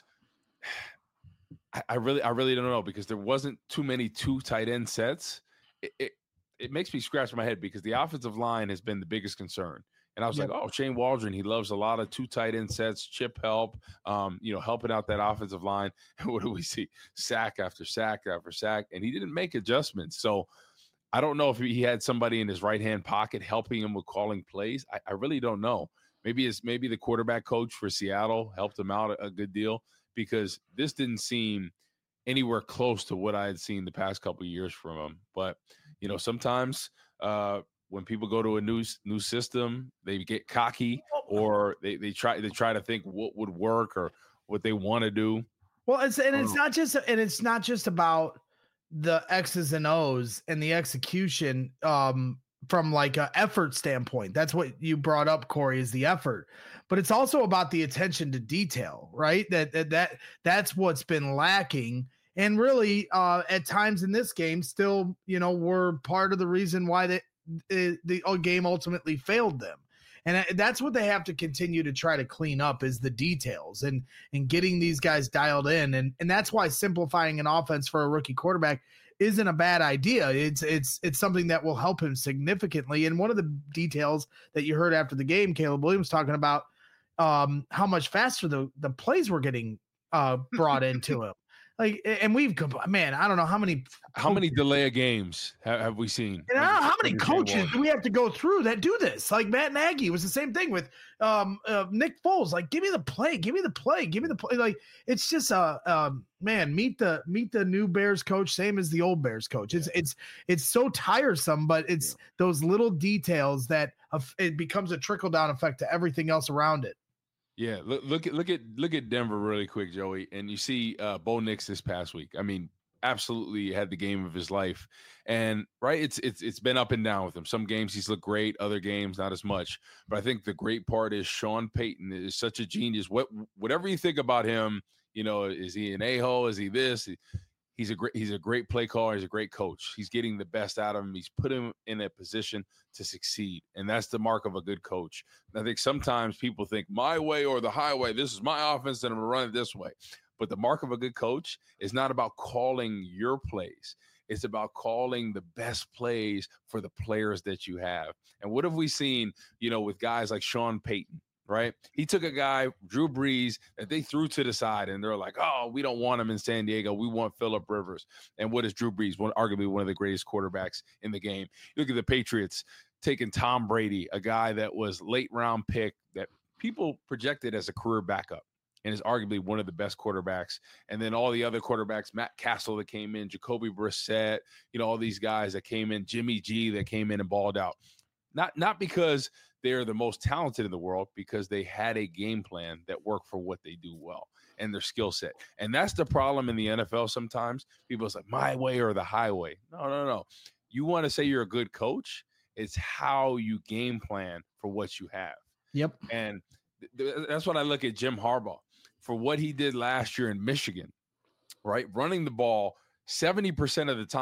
I, I really, I really don't know, because there wasn't too many two tight end sets. It, it, it makes me scratch my head because the offensive line has been the biggest concern. And I was yep. like, oh, Shane Waldron, he loves a lot of two tight end sets, chip help, um, you know, helping out that offensive line. And what do we see? Sack after sack after sack. And he didn't make adjustments. So I don't know if he had somebody in his right-hand pocket helping him with calling plays. I, I really don't know. Maybe it's maybe the quarterback coach for Seattle helped him out a, a good deal, because this didn't seem anywhere close to what I had seen the past couple of years from him. But, you know, sometimes uh, – when people go to a new new system, they get cocky, or they, they try they try to think what would work or what they want to do. Well, it's and it's not just and it's not just about the X's and O's and the execution um, from like an effort standpoint. That's what you brought up, Corey, is the effort. But it's also about the attention to detail, right? That that, that that's what's been lacking. And really, uh, at times in this game, still, you know, were part of the reason why they. the game ultimately failed them. And that's what they have to continue to try to clean up, is the details and and getting these guys dialed in. And and that's why simplifying an offense for a rookie quarterback isn't a bad idea. It's it's it's something that will help him significantly. And one of the details that you heard after the game, Caleb Williams talking about um, how much faster the, the plays were getting uh, brought into him. Like, and we've, man, I don't know how many, how many delay of games have, have we seen? And I don't know how many coaches do we have to go through that do this? Like Matt Nagy was the same thing with um, uh, Nick Foles. Like, give me the play, give me the play, give me the play. Like, it's just a uh, um, man. Meet the meet the new Bears coach, same as the old Bears coach. It's yeah. it's it's so tiresome, but it's yeah. those little details that uh, it becomes a trickle down effect to everything else around it. Yeah, look, look at look at look at Denver really quick, Joey, and you see uh, Bo Nix this past week. I mean, absolutely had the game of his life, and right, it's it's it's been up and down with him. Some games he's looked great, other games not as much. But I think the great part is Sean Payton is such a genius. What whatever you think about him, you know, is he an a-hole? Is he this? He's a great he's a great play caller. He's a great coach. He's getting the best out of him. He's put him in a position to succeed, and that's the mark of a good coach. And I think sometimes people think my way or the highway. This is my offense, and I'm going to run it this way. But the mark of a good coach is not about calling your plays. It's about calling the best plays for the players that you have. And what have we seen, you know, with guys like Sean Payton? Right? He took a guy, Drew Brees, that they threw to the side, and they're like, oh, we don't want him in San Diego. We want Phillip Rivers. And what is Drew Brees? One, arguably one of the greatest quarterbacks in the game. You look at the Patriots taking Tom Brady, a guy that was late round pick that people projected as a career backup and is arguably one of the best quarterbacks. And then all the other quarterbacks, Matt Castle that came in, Jacoby Brissett, you know, all these guys that came in, Jimmy G that came in and balled out. Not, not because they're the most talented in the world, because they had a game plan that worked for what they do well and their skill set. And that's the problem in the N F L sometimes. People say, my way or the highway. No, no, no. You want to say you're a good coach, it's how you game plan for what you have. Yep. And th- that's when I look at Jim Harbaugh for what he did last year in Michigan, right? Running the ball seventy percent of the time.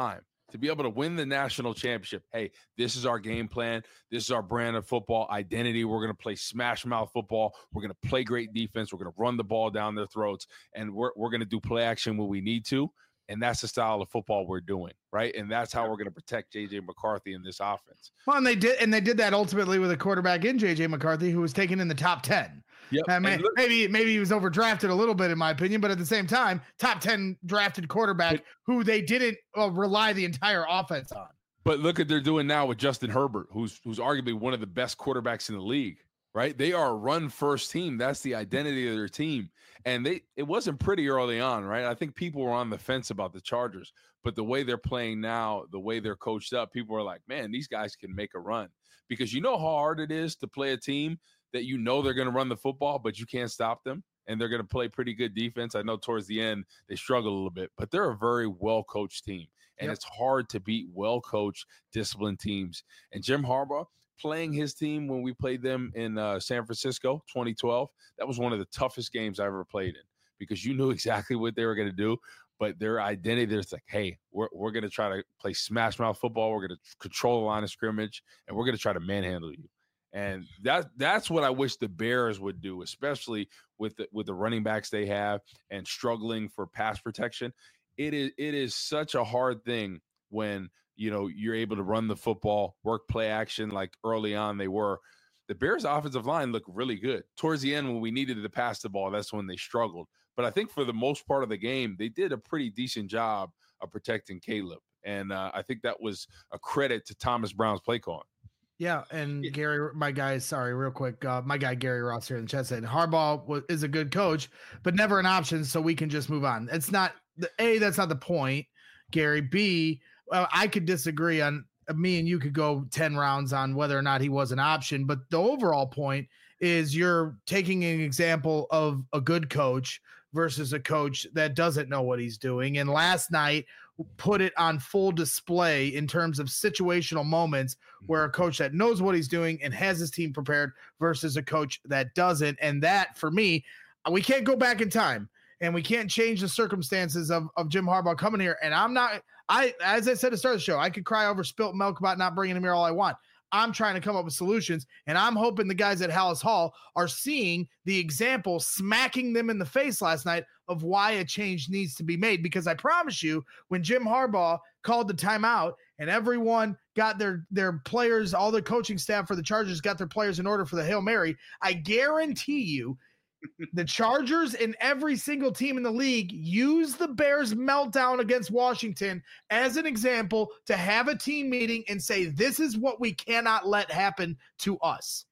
to be able to win the national championship. Hey, this is our game plan. This is our brand of football identity. We're going to play smash mouth football. We're going to play great defense. We're going to run the ball down their throats, and we're, we're going to do play action when we need to. And that's the style of football we're doing, right? And that's how we're going to protect J J McCarthy in this offense. Well, and they did, and they did that ultimately with a quarterback in J J McCarthy, who was taken in the top ten. Yep. I mean, look, maybe maybe he was overdrafted a little bit, in my opinion, but at the same time, top ten drafted quarterback but, who they didn't uh, rely the entire offense on. But look what they're doing now with Justin Herbert, who's who's arguably one of the best quarterbacks in the league. Right? They are a run-first team. That's the identity of their team. And they it wasn't pretty early on, right? I think people were on the fence about the Chargers. But the way they're playing now, the way they're coached up, people are like, man, these guys can make a run. Because you know how hard it is to play a team that you know they're going to run the football, but you can't stop them. And they're going to play pretty good defense. I know towards the end, they struggle a little bit. But they're a very well-coached team. And yep. It's hard to beat well-coached, disciplined teams. And Jim Harbaugh, playing his team when we played them in uh, San Francisco, twenty twelve, that was one of the toughest games I ever played in because you knew exactly what they were going to do, but their identity, there's like, hey, we're we're going to try to play smash mouth football. We're going to control the line of scrimmage, and we're going to try to manhandle you. And that that's what I wish the Bears would do, especially with the, with the running backs they have and struggling for pass protection. It is it is such a hard thing when you know, you're able to run the football, work play action like early on they were. The Bears' offensive line looked really good. Towards the end, when we needed to pass the ball, that's when they struggled. But I think for the most part of the game, they did a pretty decent job of protecting Caleb. And uh, I think that was a credit to Thomas Brown's play calling. Yeah, and Gary, my guy, sorry, real quick, uh, my guy Gary Ross here in the chat said Harbaugh was, is a good coach, but never an option, so we can just move on. It's not the A. That's not the point, Gary. B. Well, I could disagree on me and you could go ten rounds on whether or not he was an option, but the overall point is you're taking an example of a good coach versus a coach that doesn't know what he's doing. And last night put it on full display in terms of situational moments where a coach that knows what he's doing and has his team prepared versus a coach that doesn't. And that, for me, we can't go back in time and we can't change the circumstances of, of Jim Harbaugh coming here. And I'm not, I, as I said at the start of the show, I could cry over spilt milk about not bringing him here all I want. I'm trying to come up with solutions, and I'm hoping the guys at Hallis Hall are seeing the example, smacking them in the face last night of why a change needs to be made. Because I promise you, when Jim Harbaugh called the timeout and everyone got their, their players, all the coaching staff for the Chargers got their players in order for the Hail Mary, I guarantee you the Chargers and every single team in the league use the Bears meltdown against Washington as an example to have a team meeting and say, this is what we cannot let happen to us.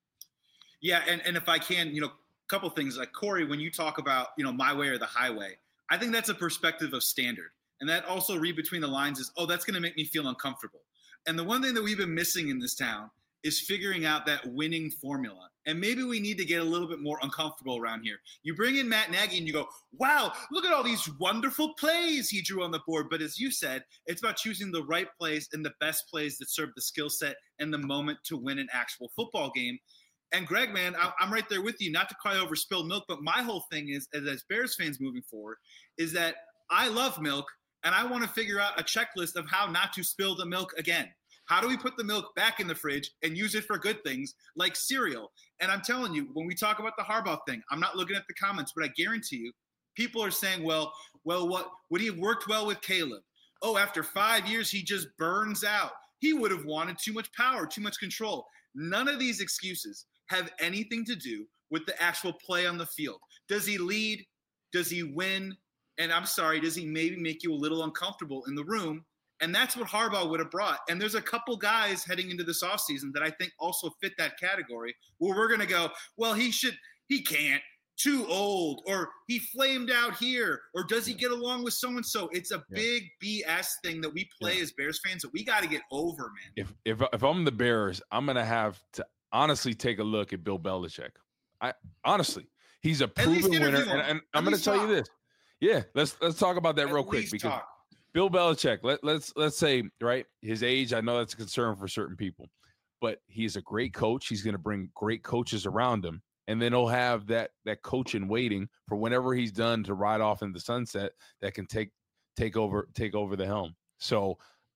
Yeah. And, and if I can, you know, a couple things like Corey, when you talk about, you know, my way or the highway, I think that's a perspective of standard. And that also read between the lines is, oh, that's going to make me feel uncomfortable. And the one thing that we've been missing in this town is figuring out that winning formula. And maybe we need to get a little bit more uncomfortable around here. You bring in Matt Nagy and you go, wow, look at all these wonderful plays he drew on the board. But as you said, it's about choosing the right plays and the best plays that serve the skill set and the moment to win an actual football game. And Greg, man, I'm right there with you, not to cry over spilled milk, but my whole thing is, as Bears fans moving forward, is that I love milk and I want to figure out a checklist of how not to spill the milk again. How do we put the milk back in the fridge and use it for good things like cereal? And I'm telling you, when we talk about the Harbaugh thing, I'm not looking at the comments, but I guarantee you, people are saying, well, well, what would he have worked well with Caleb? Oh, after five years, he just burns out. He would have wanted too much power, too much control. None of these excuses have anything to do with the actual play on the field. Does he lead? Does he win? And I'm sorry, does he maybe make you a little uncomfortable in the room? And that's what Harbaugh would have brought. And there's a couple guys heading into this offseason that I think also fit that category where we're going to go, well, he should, he can't, too old, or he flamed out here, or does he get along with so-and-so? It's a yeah. big B S thing that we play yeah. as Bears fans that we got to get over, man. If, if, if I'm the Bears, I'm going to have to honestly take a look at Bill Belichick. I honestly, he's a proven winner. And, and I'm going to tell talk. you this. Yeah, let's, let's talk about that at real quick because talk. Bill Belichick, let, let's let's say, right, his age, I know that's a concern for certain people, but he's a great coach. He's going to bring great coaches around him, and then he'll have that that coach in waiting for whenever he's done to ride off in the sunset that can take take over take over the helm. So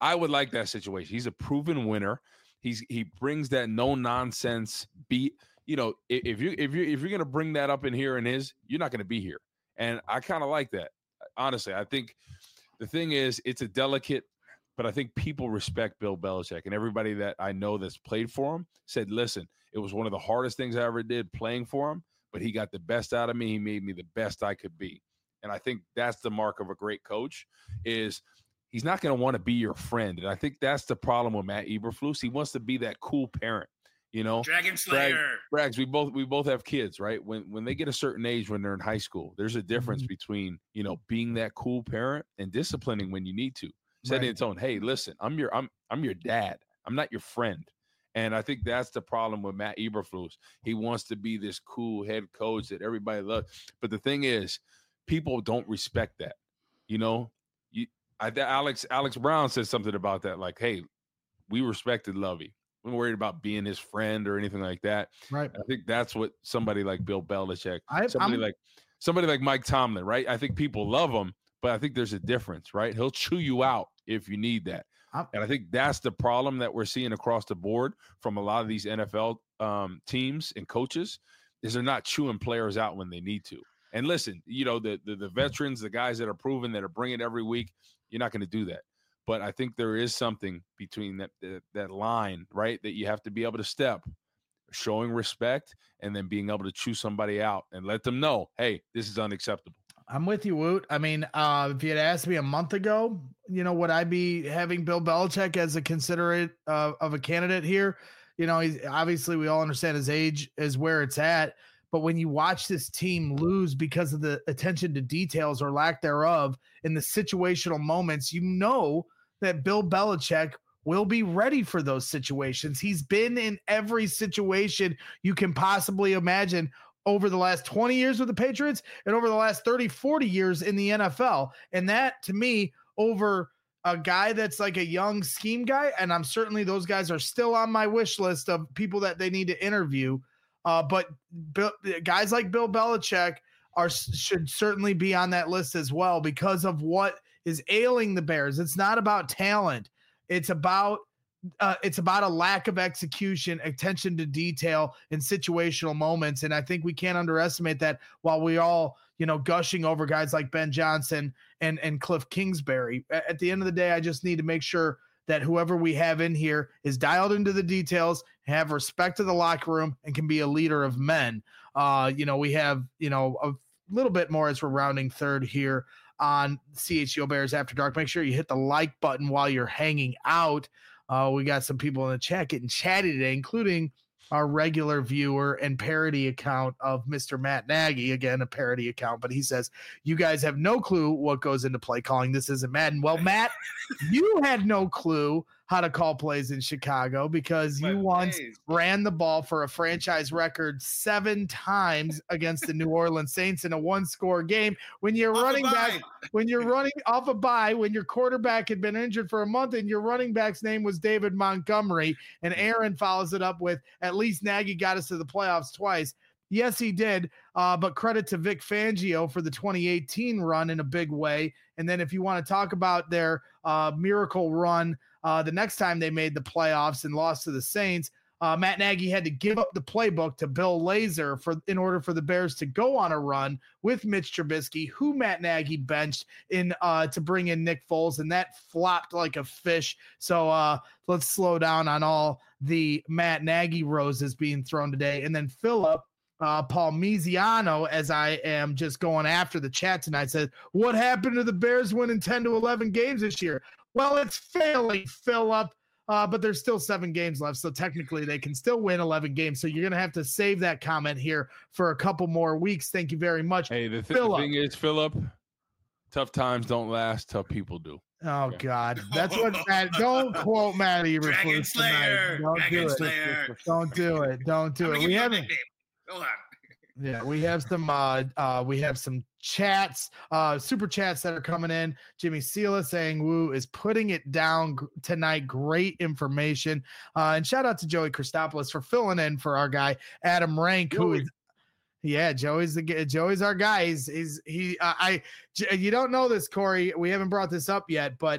I would like that situation. He's a proven winner. He's he brings that no nonsense beat. You know, if you if you if you're gonna bring that up in here and his, you're not gonna be here. And I kind of like that. Honestly, I think the thing is, it's a delicate, but I think people respect Bill Belichick, and everybody that I know that's played for him said, listen, it was one of the hardest things I ever did playing for him, but he got the best out of me. He made me the best I could be. And I think that's the mark of a great coach is he's not going to want to be your friend. And I think that's the problem with Matt Eberflus. He wants to be that cool parent, you know, Dragon Slayer. Braggs, we both, we both have kids, right? When, when they get a certain age, when they're in high school, there's a difference mm-hmm. between, you know, being that cool parent and disciplining when you need to. Setting right. its own, hey, listen, I'm your, I'm, I'm your dad. I'm not your friend. And I think that's the problem with Matt Eberflus. He wants to be this cool head coach that everybody loves. But the thing is, people don't respect that. You know, you, I, Alex, Alex Brown said something about that. Like, hey, we respected Lovey. We weren't worried about being his friend or anything like that. Right. I think that's what somebody like Bill Belichick, I, somebody I'm, like somebody like Mike Tomlin, right? I think people love him, but I think there's a difference, right? He'll chew you out if you need that. I'm, and I think that's the problem that we're seeing across the board from a lot of these N F L um, teams and coaches is they're not chewing players out when they need to. And listen, you know, the, the, the veterans, the guys that are proven, that are bringing it every week, you're not going to do that. But I think there is something between that, that that line, right, that you have to be able to step, showing respect, and then being able to chew somebody out and let them know, hey, this is unacceptable. I'm with you, Woot. I mean, uh, if you had asked me a month ago, you know, would I be having Bill Belichick as a considerate uh, of a candidate here? You know, he's obviously we all understand his age is where it's at. But when you watch this team lose because of the attention to details or lack thereof in the situational moments, you know that Bill Belichick will be ready for those situations. He's been in every situation you can possibly imagine over the last twenty years with the Patriots and over the last thirty, forty years in the N F L. And that, to me, over a guy that's like a young scheme guy, and I'm certainly those guys are still on my wish list of people that they need to interview. Uh, but Bill, guys like Bill Belichick are should certainly be on that list as well because of what is ailing the Bears. It's not about talent. It's about uh, it's about a lack of execution, attention to detail, in situational moments. And I think we can't underestimate that. While we all, you know, gushing over guys like Ben Johnson and and Cliff Kingsbury, at the end of the day, I just need to make sure that whoever we have in here is dialed into the details, have respect to the locker room, and can be a leader of men. Uh, you know, we have, you know, a little bit more as we're rounding third here on C H G O Bears After Dark. Make sure you hit the like button while you're hanging out. Uh, we got some people in the chat getting chatty today, including our regular viewer and parody account of Mister Matt Nagy. Again, a parody account, but he says, you guys have no clue what goes into play calling. This isn't Madden. Well, Matt, you had no clue how to call plays in Chicago because you My once days. ran the ball for a franchise record seven times against the New Orleans Saints in a one-score game. When you're off running back, when you're running off a bye, when your quarterback had been injured for a month and your running back's name was David Montgomery, and Aaron follows it up with, at least Nagy got us to the playoffs twice. Yes, he did, uh, but credit to Vic Fangio for the twenty eighteen run in a big way. And then if you want to talk about their uh, miracle run, Uh, the next time they made the playoffs and lost to the Saints, uh, Matt Nagy had to give up the playbook to Bill Lazor for in order for the Bears to go on a run with Mitch Trubisky, who Matt Nagy benched in uh, to bring in Nick Foles, and that flopped like a fish. So uh, let's slow down on all the Matt Nagy roses being thrown today. And then Philip, uh, Paul Miziano, as I am just going after the chat tonight, said, what happened to the Bears winning ten to eleven games this year? Well, it's failing, Philip, uh, but there's still seven games left, so technically they can still win eleven games. So you're going to have to save that comment here for a couple more weeks. Thank you very much. Hey, the, th- the thing is, Philip, tough times don't last, tough people do. Oh, okay. God. That's what Matt – don't quote Matt Eberflus Dragon Slayer. Don't Dragon do Slayer. it. Don't do it. Don't do it. We haven't – Hold on. Yeah, we have some uh uh we have some chats, uh super chats that are coming in. Jimmy Sela saying Woo is putting it down g- tonight. Great information. Uh and shout out to Joey Christopoulos for filling in for our guy Adam Rank, who is yeah, Joey's the Joey's our guy. He's, he's he uh, I you don't know this, Corey. We haven't brought this up yet, but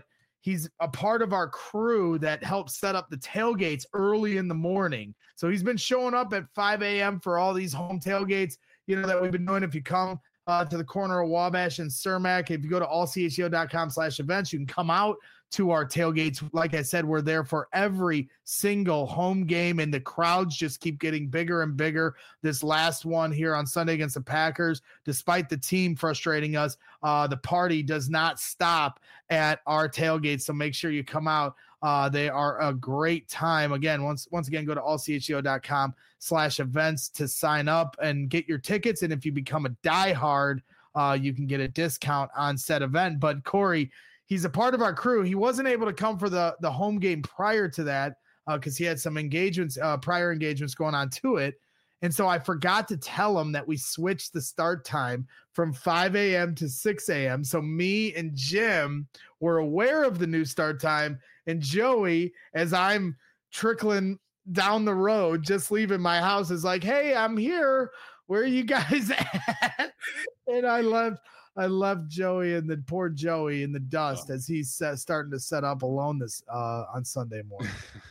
he's a part of our crew that helps set up the tailgates early in the morning. So he's been showing up at five a.m. for all these home tailgates, you know, that we've been doing. If you come uh, to the corner of Wabash and Cermak, if you go to all c h g o dot com slash events, you can come out to our tailgates. Like I said, we're there for every single home game, and the crowds just keep getting bigger and bigger. This last one here on Sunday against the Packers, despite the team frustrating us, uh, the party does not stop at our tailgates. So make sure you come out. Uh, they are a great time. Again, once once again, go to all c h g o dot com slash events to sign up and get your tickets. And if you become a diehard, uh, you can get a discount on said event. But Corey, he's a part of our crew. He wasn't able to come for the, the home game prior to that because uh, he had some engagements, uh, prior engagements going on to it. And so I forgot to tell him that we switched the start time from five a.m. to six a.m. So me and Jim were aware of the new start time. And Joey, as I'm trickling down the road, just leaving my house, is like, hey, I'm here. Where are you guys at? And I left. I left Joey and the poor Joey in the dust oh. as he's set, starting to set up alone this uh, on Sunday morning.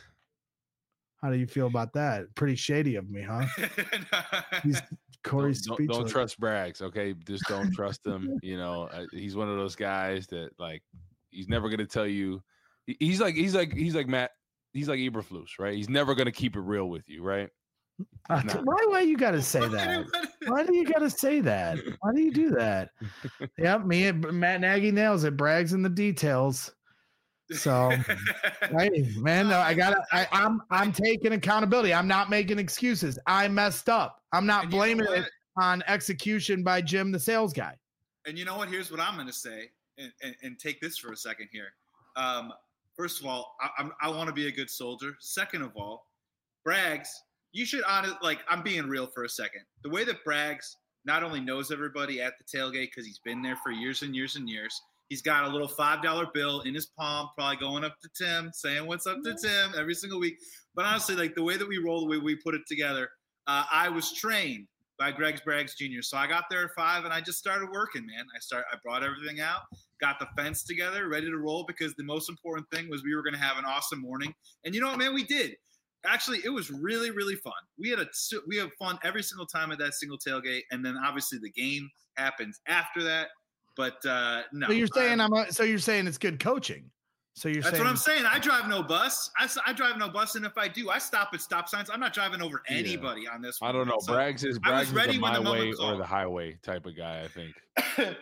How do you feel about that? Pretty shady of me, huh? He's Corey's don't, don't, don't trust Braggs, okay? Just don't trust him. You know, uh, he's one of those guys that like he's never gonna tell you. He's like he's like he's like Matt. He's like Eberflus, right? He's never gonna keep it real with you, right? Uh, why? Why you gotta say that? Why do you gotta say that? Why do you do that? Yep, me and Matt Nagy nails it. Braggs in the details. So, hey, man, no, I gotta. I, I'm I'm taking accountability. I'm not making excuses. I messed up. I'm not blaming it on execution by Jim, the sales guy. And you know what? Here's what I'm gonna say, and and, and take this for a second here. Um, first of all, I, I'm, I want to be a good soldier. Second of all, Braggs. You should honest like I'm being real for a second. The way that Braggs not only knows everybody at the tailgate because he's been there for years and years and years. He's got a little five dollar bill in his palm, probably going up to Tim, saying what's up to Tim every single week. But honestly, like the way that we roll, the way we put it together, uh, I was trained by Greg Braggs Junior So I got there at five and I just started working, man. I start I brought everything out, got the fence together, ready to roll because the most important thing was we were going to have an awesome morning. And you know what, man, we did. Actually, it was really, really fun. We had a we had fun every single time at that single tailgate, and then obviously the game happens after that. But uh, no, so you're saying I'm. A, so you're saying it's good coaching. So you're that's saying what I'm saying. I drive no bus. I, I drive no bus, and if I do, I stop at stop signs. I'm not driving over anybody yeah. on this one. I don't know. So Braggs is Braggs is the my way or the highway type of guy. I think.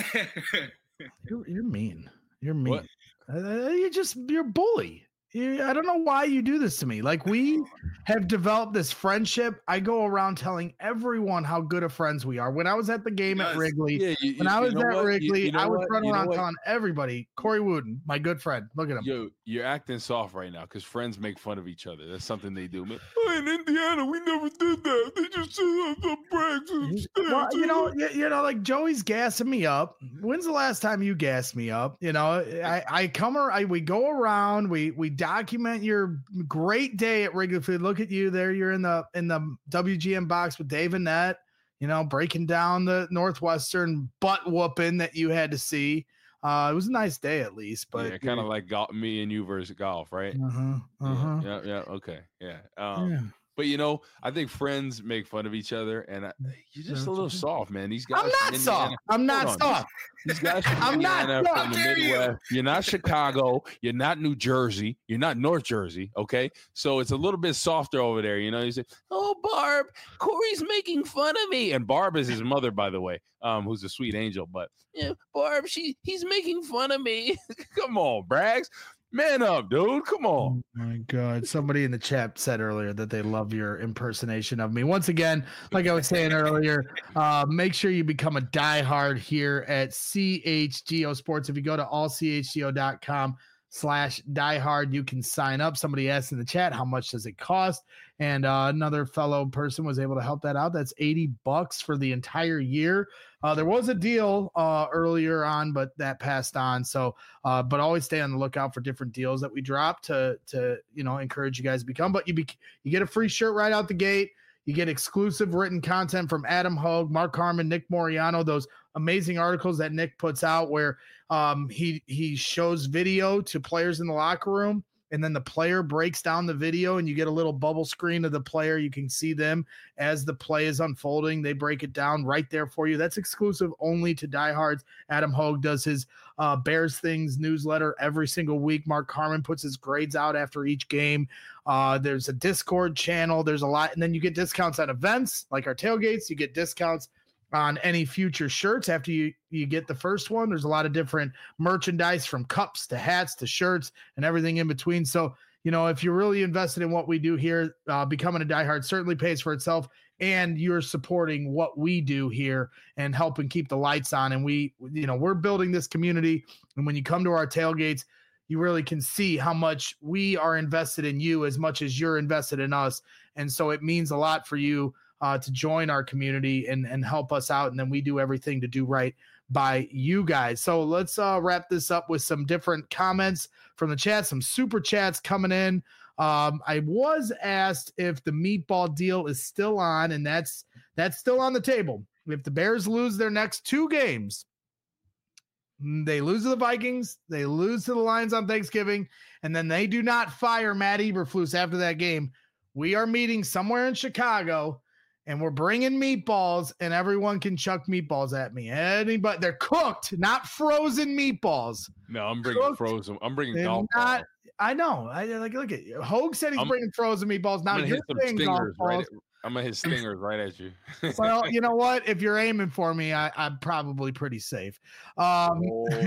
you're, you're mean. You're mean. Uh, you're just you're a bully. I don't know why you do this to me. Like, we have developed this friendship. I go around telling everyone how good of friends we are. When I was at the game yes. at Wrigley, yeah, you, when you, I was at what? Wrigley, you, you know I was running around telling everybody, Corey Wooden, my good friend. Look at him. Yo, you're acting soft right now because friends make fun of each other. That's something they do. Man, oh, in Indiana, we never did that. They just said the Braggs. Well, you know, you, you know, like Joey's gassing me up. When's the last time you gassed me up? You know, I, I come or I we go around, we we document your great day at Wrigley Field. Look at you there. You're in the in the W G M box with Dave Annette, you know, breaking down the Northwestern butt whooping that you had to see. Uh, it was a nice day at least, but yeah, kind of like golf, me and you versus golf, right? Uh-huh, uh-huh. Yeah, yeah, yeah, okay, yeah. Um, yeah. But you know, I think friends make fun of each other, and I, you're just a little soft, man. These guys. I'm not soft. I'm not soft. These guys from I'm Indiana, not from the Midwest. You? You're not Chicago. You're not New Jersey. You're not North Jersey. Okay, so it's a little bit softer over there. You know, you say, "Oh, Barb, Corey's making fun of me," and Barb is his mother, by the way, um, who's a sweet angel. But yeah, Barb, she he's making fun of me. Come on, Braggs. Man up, dude. Come on. Oh my God. Somebody in the chat said earlier that they love your impersonation of me. Once again, like I was saying earlier, uh, make sure you become a diehard here at C H G O Sports. If you go to all c h g o dot com slash diehard, you can sign up. Somebody asked in the chat, how much does it cost? And uh, another fellow person was able to help that out. That's eighty bucks for the entire year. Uh, there was a deal uh, earlier on, but that passed on. So, uh, but always stay on the lookout for different deals that we drop to, to, you know, encourage you guys to become, but you be, you get a free shirt right out the gate. You get exclusive written content from Adam Hogue, Mark Harmon, Nick Moriano, those amazing articles that Nick puts out where Um, he he shows video to players in the locker room, and then the player breaks down the video, and you get a little bubble screen of the player. You can see them as the play is unfolding. They break it down right there for you. That's exclusive only to diehards. Adam Hogue does his uh, Bears Things newsletter every single week. Mark Carman puts his grades out after each game. Uh, there's a Discord channel. There's a lot. And then you get discounts on events like our tailgates. You get discounts on any future shirts after you, you get the first one. There's a lot of different merchandise from cups to hats to shirts and everything in between. So, you know, if you're really invested in what we do here, uh, becoming a diehard certainly pays for itself, and you're supporting what we do here and helping keep the lights on. And we, you know, we're building this community. And when you come to our tailgates, you really can see how much we are invested in you as much as you're invested in us. And so it means a lot for you Uh, to join our community and, and help us out. And then we do everything to do right by you guys. So let's uh, wrap this up with some different comments from the chat, some super chats coming in. Um, I was asked if the meatball deal is still on, and that's, that's still on the table. If the Bears lose their next two games, they lose to the Vikings, they lose to the Lions on Thanksgiving, and then they do not fire Matt Eberflus after that game, we are meeting somewhere in Chicago, and we're bringing meatballs, and everyone can chuck meatballs at me. Anybody, they're cooked, not frozen meatballs. No, I'm bringing cooked. frozen. I'm bringing golf not, balls. I know. I like look at you. Hogue said he's I'm, bringing frozen meatballs. Now you're saying golf right balls. at, I'm gonna hit stingers right at you. Well, you know what? If you're aiming for me, I, I'm probably pretty safe. Um,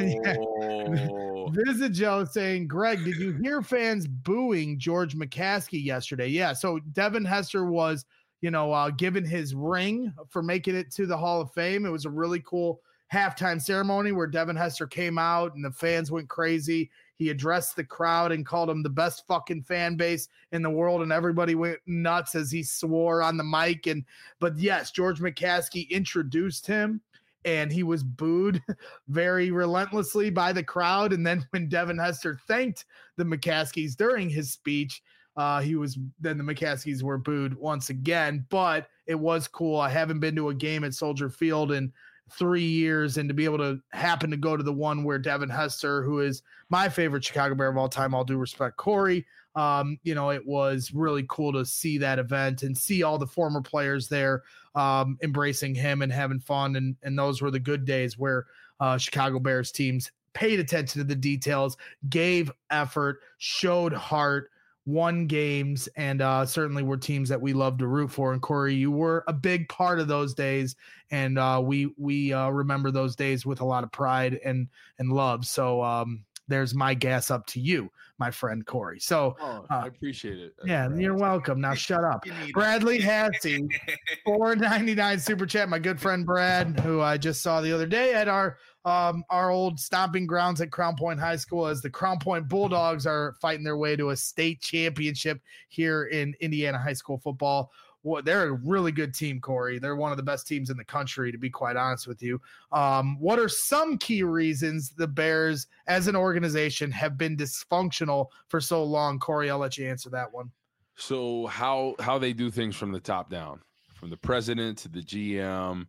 oh. Visit Joe saying, Greg, did you hear fans booing George McCaskey yesterday? Yeah. So Devin Hester was, you know, uh, given his ring for making it to the Hall of Fame. It was a really cool halftime ceremony where Devin Hester came out and the fans went crazy. He addressed the crowd and called him the best fucking fan base in the world, and everybody went nuts as he swore on the mic. And but yes, George McCaskey introduced him, and he was booed very relentlessly by the crowd. And then when Devin Hester thanked the McCaskeys during his speech, Uh, he was then the McCaskeys were booed once again, but it was cool. I haven't been to a game at Soldier Field in three years, and to be able to happen to go to the one where Devin Hester, who is my favorite Chicago Bear of all time, all due respect, Corey, um, you know, it was really cool to see that event and see all the former players there um, embracing him and having fun. And, and those were the good days where uh, Chicago Bears teams paid attention to the details, gave effort, showed heart, won games, and uh, certainly were teams that we love to root for. And Corey, you were a big part of those days, and uh, we we uh, remember those days with a lot of pride and and love. So um, there's my gas up to you, my friend Corey. So oh, uh, I appreciate it. Yeah, Brad. You're welcome. Now shut up. Bradley Hassey, four ninety-nine super chat. My good friend Brad, who I just saw the other day at our um, our old stomping grounds at Crown Point High School, as the Crown Point Bulldogs are fighting their way to a state championship here in Indiana high school football. Well, they're a really good team, Corey. They're one of the best teams in the country, to be quite honest with you. Um, what are some key reasons the Bears as an organization have been dysfunctional for so long? Corey, I'll let you answer that one. So how how they do things from the top down, from the president to the G M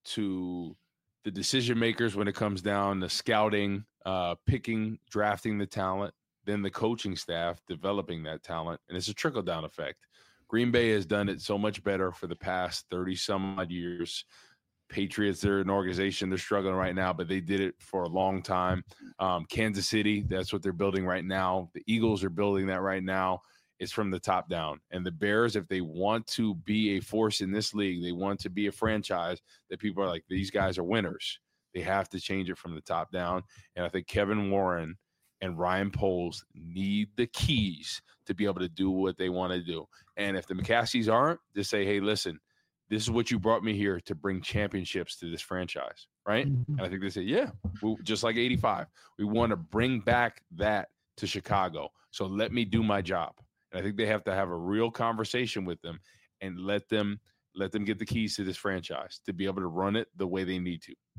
to the decision makers when it comes down to scouting, uh, picking, drafting the talent, then the coaching staff developing that talent. And it's a trickle down effect. Green Bay has done it so much better for the past thirty some odd years. Patriots, they're an organization, they're struggling right now, but they did it for a long time. Um, Kansas City, that's what they're building right now. The Eagles are building that right now. It's from the top down. And the Bears, if they want to be a force in this league, they want to be a franchise that people are like, these guys are winners. They have to change it from the top down. And I think Kevin Warren and Ryan Poles need the keys to be able to do what they want to do. And if the McCaskeys aren't, just say, hey, listen, this is what you brought me here to bring championships to this franchise, right? Mm-hmm. And I think they say, yeah, we, just like eighty-five, we want to bring back that to Chicago. So let me do my job. And I think they have to have a real conversation with them and let them let them get the keys to this franchise to be able to run it the way they need to.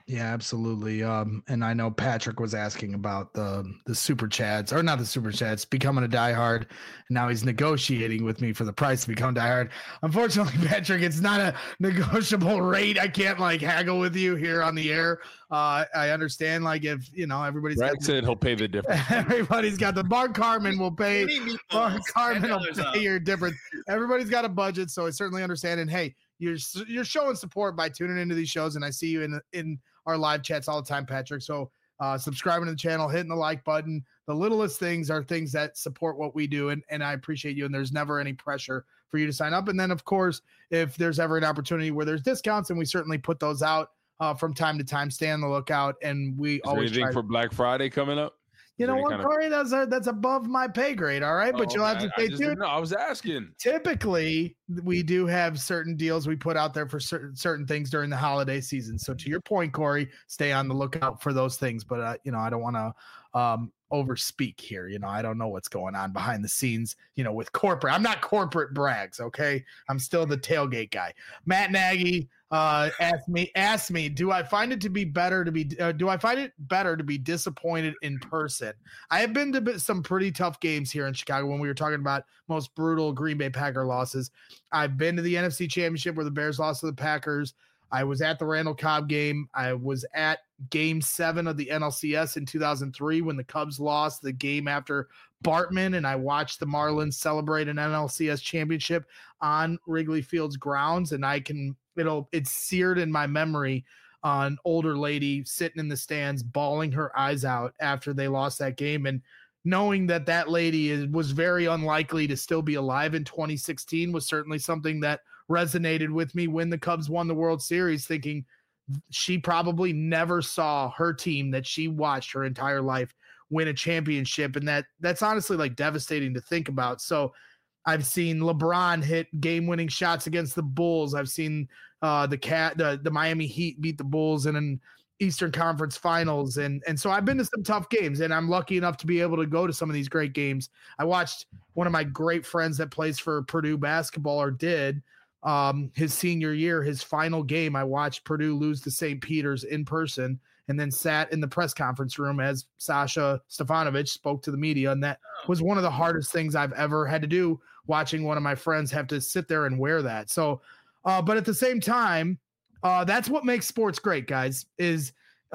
Yeah, absolutely. Um, and I know Patrick was asking about the the super chats, or not the super chats, becoming a diehard. And now he's negotiating with me for the price to become diehard. Unfortunately, Patrick, it's not a negotiable rate. I can't like haggle with you here on the air. Uh, I understand, like if you know everybody's Brad got said he'll pay the difference. Everybody's got the Mark Carmen will pay. Mark Carmen will pay up. your difference. Everybody's got a budget, so I certainly understand. And hey, you're you're showing support by tuning into these shows, and I see you in in our live chats all the time, Patrick. So uh, subscribing to the channel, hitting the like button. The littlest things are things that support what we do, and, and I appreciate you. And there's never any pressure for you to sign up. And then, of course, if there's ever an opportunity where there's discounts, and we certainly put those out uh, from time to time, stay on the lookout. And we Is always there anything try for to- Black Friday coming up? You know what, Corey? That's a, that's above my pay grade. All right, but Oh, you'll have to I- stay I just tuned. didn't know. I was asking. Typically, we do have certain deals we put out there for certain certain things during the holiday season. So to your point, Corey, stay on the lookout for those things. But uh, you know, I don't want to um, overspeak here. You know, I don't know what's going on behind the scenes. You know, with corporate, I'm not corporate brags. Okay, I'm still the tailgate guy. Matt Nagy uh, asked me asked me, do I find it to be better to be? Uh, do I find it better to be disappointed in person? I have been to some pretty tough games here in Chicago when we were talking about most brutal Green Bay Packer losses. I've been to the N F C Championship where the Bears lost to the Packers. I was at the Randall Cobb game. I was at game seven of the N L C S in two thousand three when the Cubs lost the game after Bartman, and I watched the Marlins celebrate an N L C S championship on Wrigley Field's grounds. And I can, it'll, it's seared in my memory. Uh, an older lady sitting in the stands, bawling her eyes out after they lost that game. And knowing that that lady is, was very unlikely to still be alive in twenty sixteen was certainly something that resonated with me when the Cubs won the World Series, thinking she probably never saw her team that she watched her entire life win a championship. And that that's honestly like devastating to think about. So I've seen LeBron hit game-winning shots against the Bulls. I've seen uh, the cat, the, the Miami Heat beat the Bulls in an Eastern Conference Finals, and and so I've been to some tough games, and I'm lucky enough to be able to go to some of these great games. I watched one of my great friends that plays for Purdue basketball, or did, um, his senior year, his final game. I watched Purdue lose to Saint Peter's in person, and then sat in the press conference room as Sasha Stefanovic spoke to the media, and that was one of the hardest things I've ever had to do, watching one of my friends have to sit there and wear that. So, uh, but at the same time, uh, that's what makes sports great, guys, is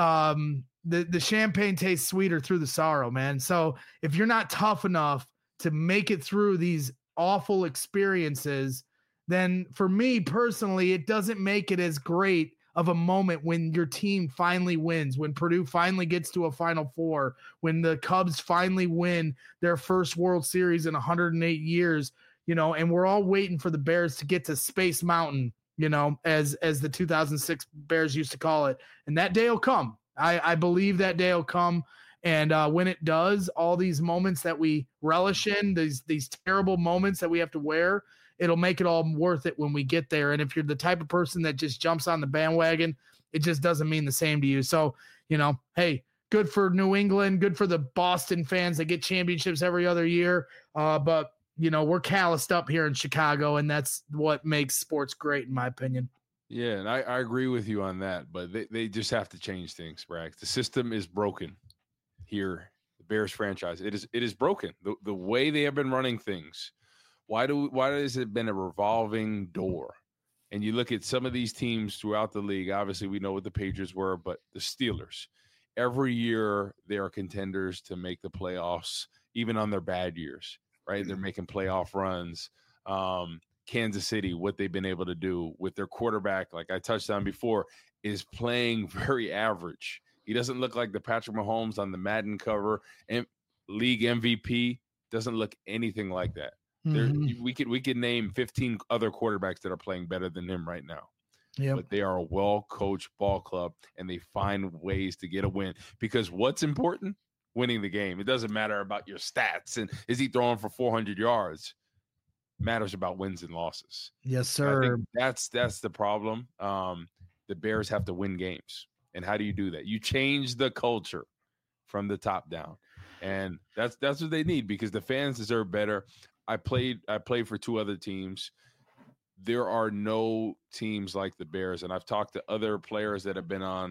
um, the, the champagne tastes sweeter through the sorrow, man. So if you're not tough enough to make it through these awful experiences, then for me personally, it doesn't make it as great of a moment when your team finally wins, when Purdue finally gets to a Final Four, when the Cubs finally win their first World Series in one hundred eight years, you know, and we're all waiting for the Bears to get to Space Mountain, you know, as as the two thousand six Bears used to call it. And that day will come. I, I believe that day will come. And uh, when it does, all these moments that we relish in, these these terrible moments that we have to wear, it'll make it all worth it when we get there. And if you're the type of person that just jumps on the bandwagon, it just doesn't mean the same to you. So, you know, hey, good for New England, good for the Boston fans that get championships every other year. Uh, but, you know, we're calloused up here in Chicago, and that's what makes sports great, in my opinion. Yeah, and I, I agree with you on that, but they, they just have to change things, Bragg. The system is broken here, the Bears franchise. It is it is broken. The, the way they have been running things. Why do why has it been a revolving door? And you look at some of these teams throughout the league. Obviously, we know what the Patriots were, but the Steelers, every year they are contenders to make the playoffs, even on their bad years, right? They're making playoff runs. Um, Kansas City, what they've been able to do with their quarterback, like I touched on before, is playing very average. He doesn't look like the Patrick Mahomes on the Madden cover, and league M V P doesn't look anything like that. There, we could we could name fifteen other quarterbacks that are playing better than him right now. Yep. But they are a well-coached ball club, and they find ways to get a win. Because what's important? Winning the game. It doesn't matter about your stats and is he throwing for four hundred yards. It matters about wins and losses. Yes, sir. I think that's that's the problem. Um, the Bears have to win games, and how do you do that? You change the culture from the top down, and that's that's what they need because the fans deserve better. I played I played for two other teams. There are no teams like the Bears, and I've talked to other players that have been on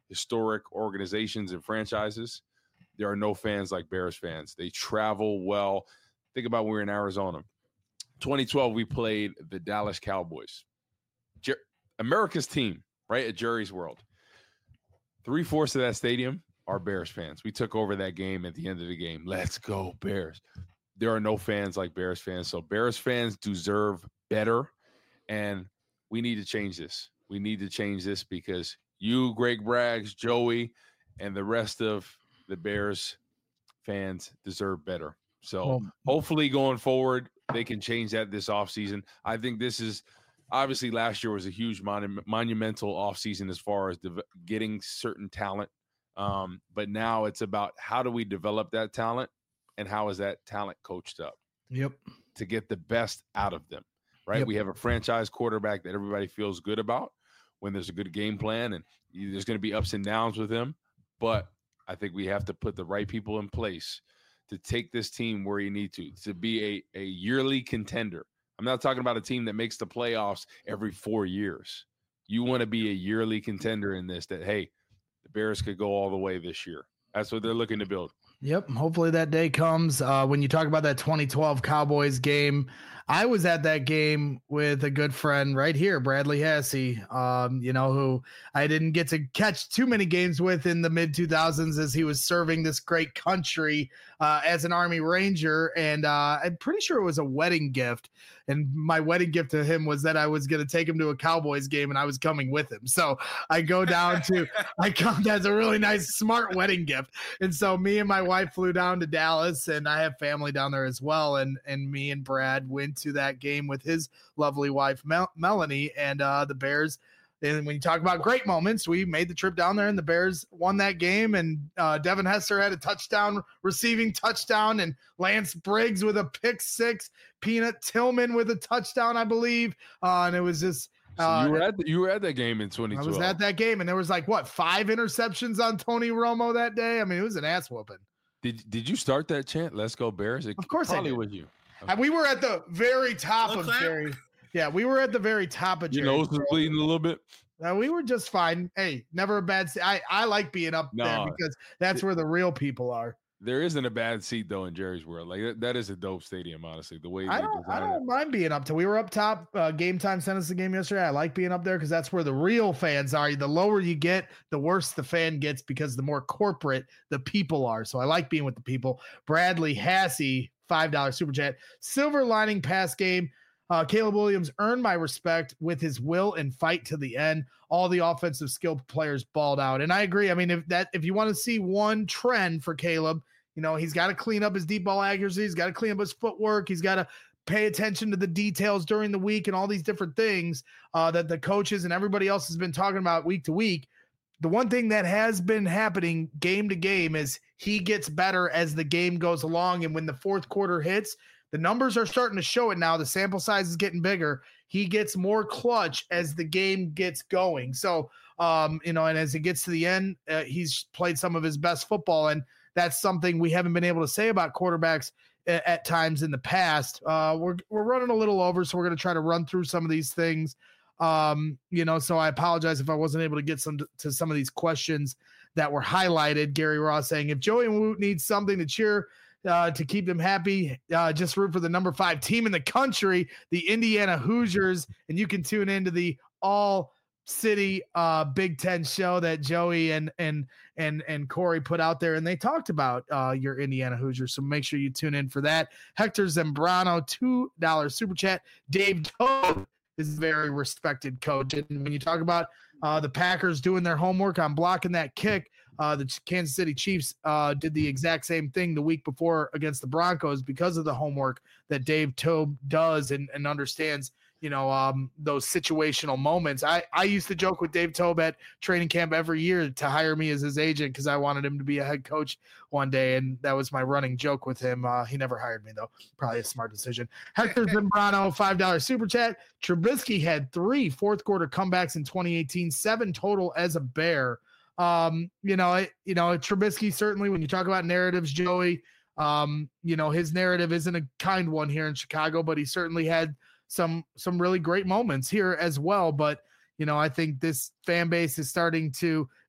historic organizations and franchises, there are no fans like Bears fans. They travel well. Think about when we were in Arizona. twenty twelve, we played the Dallas Cowboys. Jer- America's team, right, at Jerry's World. Three-fourths of that stadium are Bears fans. We took over that game at the end of the game. Let's go, Bears. There are no fans like Bears fans. So Bears fans deserve better, and we need to change this. We need to change this because you, Greg Braggs, Joey, and the rest of the Bears fans deserve better. So well, hopefully going forward, they can change that this offseason. I think this is obviously last year was a huge monu- monumental offseason as far as de- getting certain talent. Um, but now it's about how do we develop that talent and how is that talent coached up? Yep. To get the best out of them, right? Yep. We have a franchise quarterback that everybody feels good about when there's a good game plan, and there's going to be ups and downs with him. But I think we have to put the right people in place to take this team where you need to, to be a, a yearly contender. I'm not talking about a team that makes the playoffs every four years. You want to be a yearly contender in this, that, hey, the Bears could go all the way this year. That's what they're looking to build. Yep. Hopefully that day comes. Uh, when you talk about that twenty twelve Cowboys game, I was at that game with a good friend right here, Bradley Hassey, um, you know, who I didn't get to catch too many games with in the mid two thousands as he was serving this great country uh, as an Army Ranger. And uh, I'm pretty sure it was a wedding gift. And my wedding gift to him was that I was going to take him to a Cowboys game and I was coming with him. So I go down to, I come, that's a really nice, smart wedding gift. And so me and my wife flew down to Dallas, and I have family down there as well. And, and me and Brad went to that game with his lovely wife, Mel- Melanie, and uh, the Bears. And when you talk about great moments, we made the trip down there and the Bears won that game. And uh, Devin Hester had a touchdown, receiving touchdown, and Lance Briggs with a pick six, Peanut Tillman with a touchdown, I believe. Uh, and it was just, uh, so you were at the, you were at that game in twenty twelve. I was at that game, and there was like what five interceptions on Tony Romo that day. I mean, it was an ass whooping. Did Did you start that chant? Let's go Bears. It of course, probably I did. was you. Okay. And we were at the very top Hello, of clap. Jerry. Yeah, we were at the very top of Jerry. Your nose was bleeding a little bit. Uh, we were just fine. Hey, never a bad seat. I, I like being up no, there because that's where the real people are. There isn't a bad seat though in Jerry's World. Like that, that is a dope stadium, honestly. The way I don't, I don't it. mind being up to. We were up top. Uh, Game Time sent us the game yesterday. I like being up there because that's where the real fans are. The lower you get, the worse the fan gets because the more corporate the people are. So I like being with the people. Bradley Hassey, five dollars super chat. Silver lining pass game. Uh, Caleb Williams earned my respect with his will and fight to the end. All the offensive skill players balled out. And I agree. I mean, if that, if you want to see one trend for Caleb, you know, he's got to clean up his deep ball accuracy. He's got to clean up his footwork. He's got to pay attention to the details during the week and all these different things uh, that the coaches and everybody else has been talking about week to week. The one thing that has been happening game to game is he gets better as the game goes along. And when the fourth quarter hits, the numbers are starting to show it now. The sample size is getting bigger. He gets more clutch as the game gets going. So, um, you know, and as it gets to the end, uh, he's played some of his best football. And that's something we haven't been able to say about quarterbacks at, at times in the past. Uh, we're, we're running a little over, so we're going to try to run through some of these things. Um, you know, so I apologize if I wasn't able to get some to some of these questions that were highlighted. Gary Ross saying, if Joey and Woot needs something to cheer Uh, to keep them happy, uh, just root for the number five team in the country, the Indiana Hoosiers, and you can tune into the All City uh, Big Ten show that Joey and and and and Corey put out there, and they talked about uh, your Indiana Hoosiers. So make sure you tune in for that. Hector Zambrano, two dollars super chat. Dave Toad is a very respected coach, and when you talk about uh, the Packers doing their homework on blocking that kick. Uh, the Kansas City Chiefs uh, did the exact same thing the week before against the Broncos because of the homework that Dave Tobe does and, and understands, you know, um, those situational moments. I, I used to joke with Dave Tobe at training camp every year to hire me as his agent because I wanted him to be a head coach one day, and that was my running joke with him. Uh, he never hired me, though. Probably a smart decision. Hector Zambrano, five dollars super chat. Trubisky had three fourth-quarter comebacks in twenty eighteen, seven total as a Bear. Um, you know, it, you know, Trubisky, certainly when you talk about narratives, Joey, um, you know, his narrative isn't a kind one here in Chicago, but he certainly had some, some really great moments here as well. But, you know, I think this fan base is starting to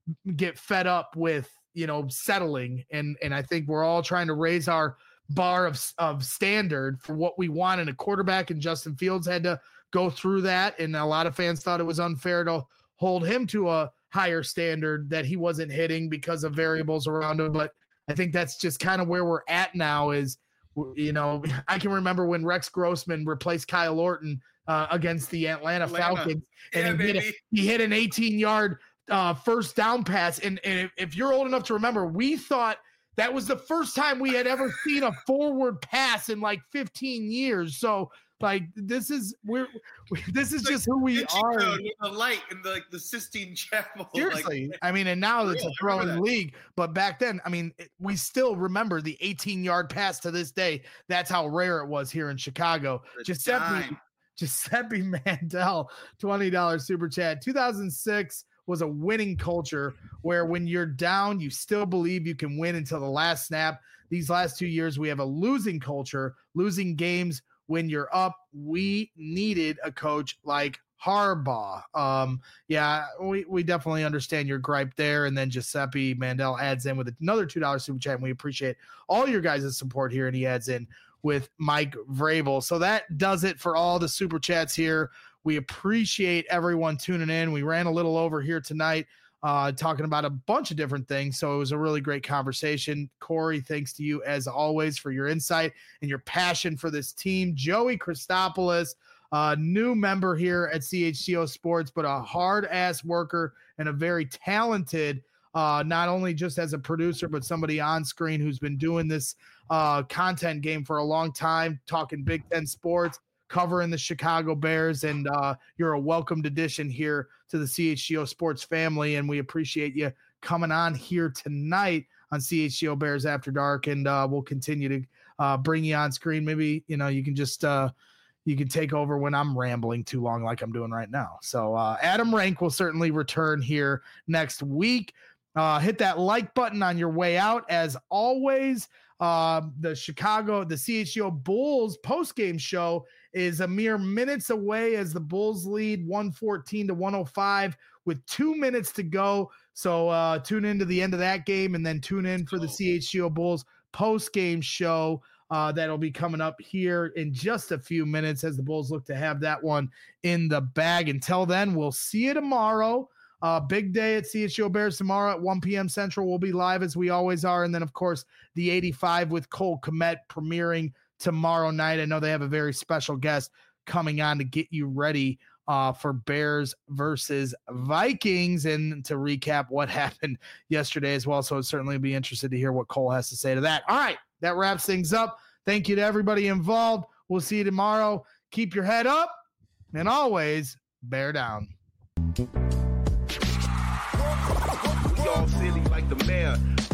get fed up with, you know, settling. And, and I think we're all trying to raise our bar of, of standard for what we want in a quarterback, and Justin Fields had to go through that. And a lot of fans thought it was unfair to hold him to a higher standard that he wasn't hitting because of variables around him. But I think that's just kind of where we're at now is, you know, I can remember when Rex Grossman replaced Kyle Orton uh, against the Atlanta, Atlanta. Falcons, and yeah, he, hit a, he hit an eighteen yard uh, first down pass. And, and if, if you're old enough to remember, we thought that was the first time we had ever seen a forward pass in like fifteen years. So like, this is, we're, we, this is just who we are. The light in the, like the Sistine Chapel. Seriously. Like, I mean, and now it's a throwing league, but back then, I mean, it, we still remember the eighteen yard pass to this day. That's how rare it was here in Chicago. Giuseppe, Giuseppe Mandel, twenty dollars super chat. two thousand six was a winning culture where when you're down, you still believe you can win until the last snap. These last two years, we have a losing culture, losing games when you're up. We needed a coach like Harbaugh. Um, yeah, we, we definitely understand your gripe there. And then Giuseppe Mandel adds in with another two dollars super chat, and we appreciate all your guys' support here. And he adds in with Mike Vrabel. So that does it for all the super chats here. We appreciate everyone tuning in. We ran a little over here tonight, uh, talking about a bunch of different things. So it was a really great conversation. Corey, thanks to you as always for your insight and your passion for this team. Joey Christopoulos, uh, new member here at C H G O Sports, but a hard-ass worker and a very talented, uh, not only just as a producer, but somebody on screen who's been doing this uh, content game for a long time, talking Big Ten sports, covering the Chicago Bears, and uh, you're a welcomed addition here to the C H G O Sports family, and we appreciate you coming on here tonight on C H G O Bears After Dark, and uh, we'll continue to uh, bring you on screen. Maybe, you know, you can just uh, you can take over when I'm rambling too long like I'm doing right now. So uh, Adam Rank will certainly return here next week. Uh, hit that like button on your way out. As always, uh, the Chicago, the C H G O Bulls post-game show is a mere minutes away as the Bulls lead one fourteen to one oh five with two minutes to go. So uh, tune into the end of that game, and then tune in for the C H G O Bulls post-game show uh, that'll be coming up here in just a few minutes as the Bulls look to have that one in the bag. Until then, we'll see you tomorrow. Uh, big day at C H G O Bears tomorrow at one p.m. Central. We'll be live as we always are. And then, of course, the eighty-five with Cole Kmet premiering tomorrow night. I know they have a very special guest coming on to get you ready uh, for Bears versus Vikings and to recap what happened yesterday as well. So I'd certainly be interested to hear what Cole has to say to that. All right, that wraps things up. Thank you to everybody involved. We'll see you tomorrow. Keep your head up and always bear down. We all silly like the mayor.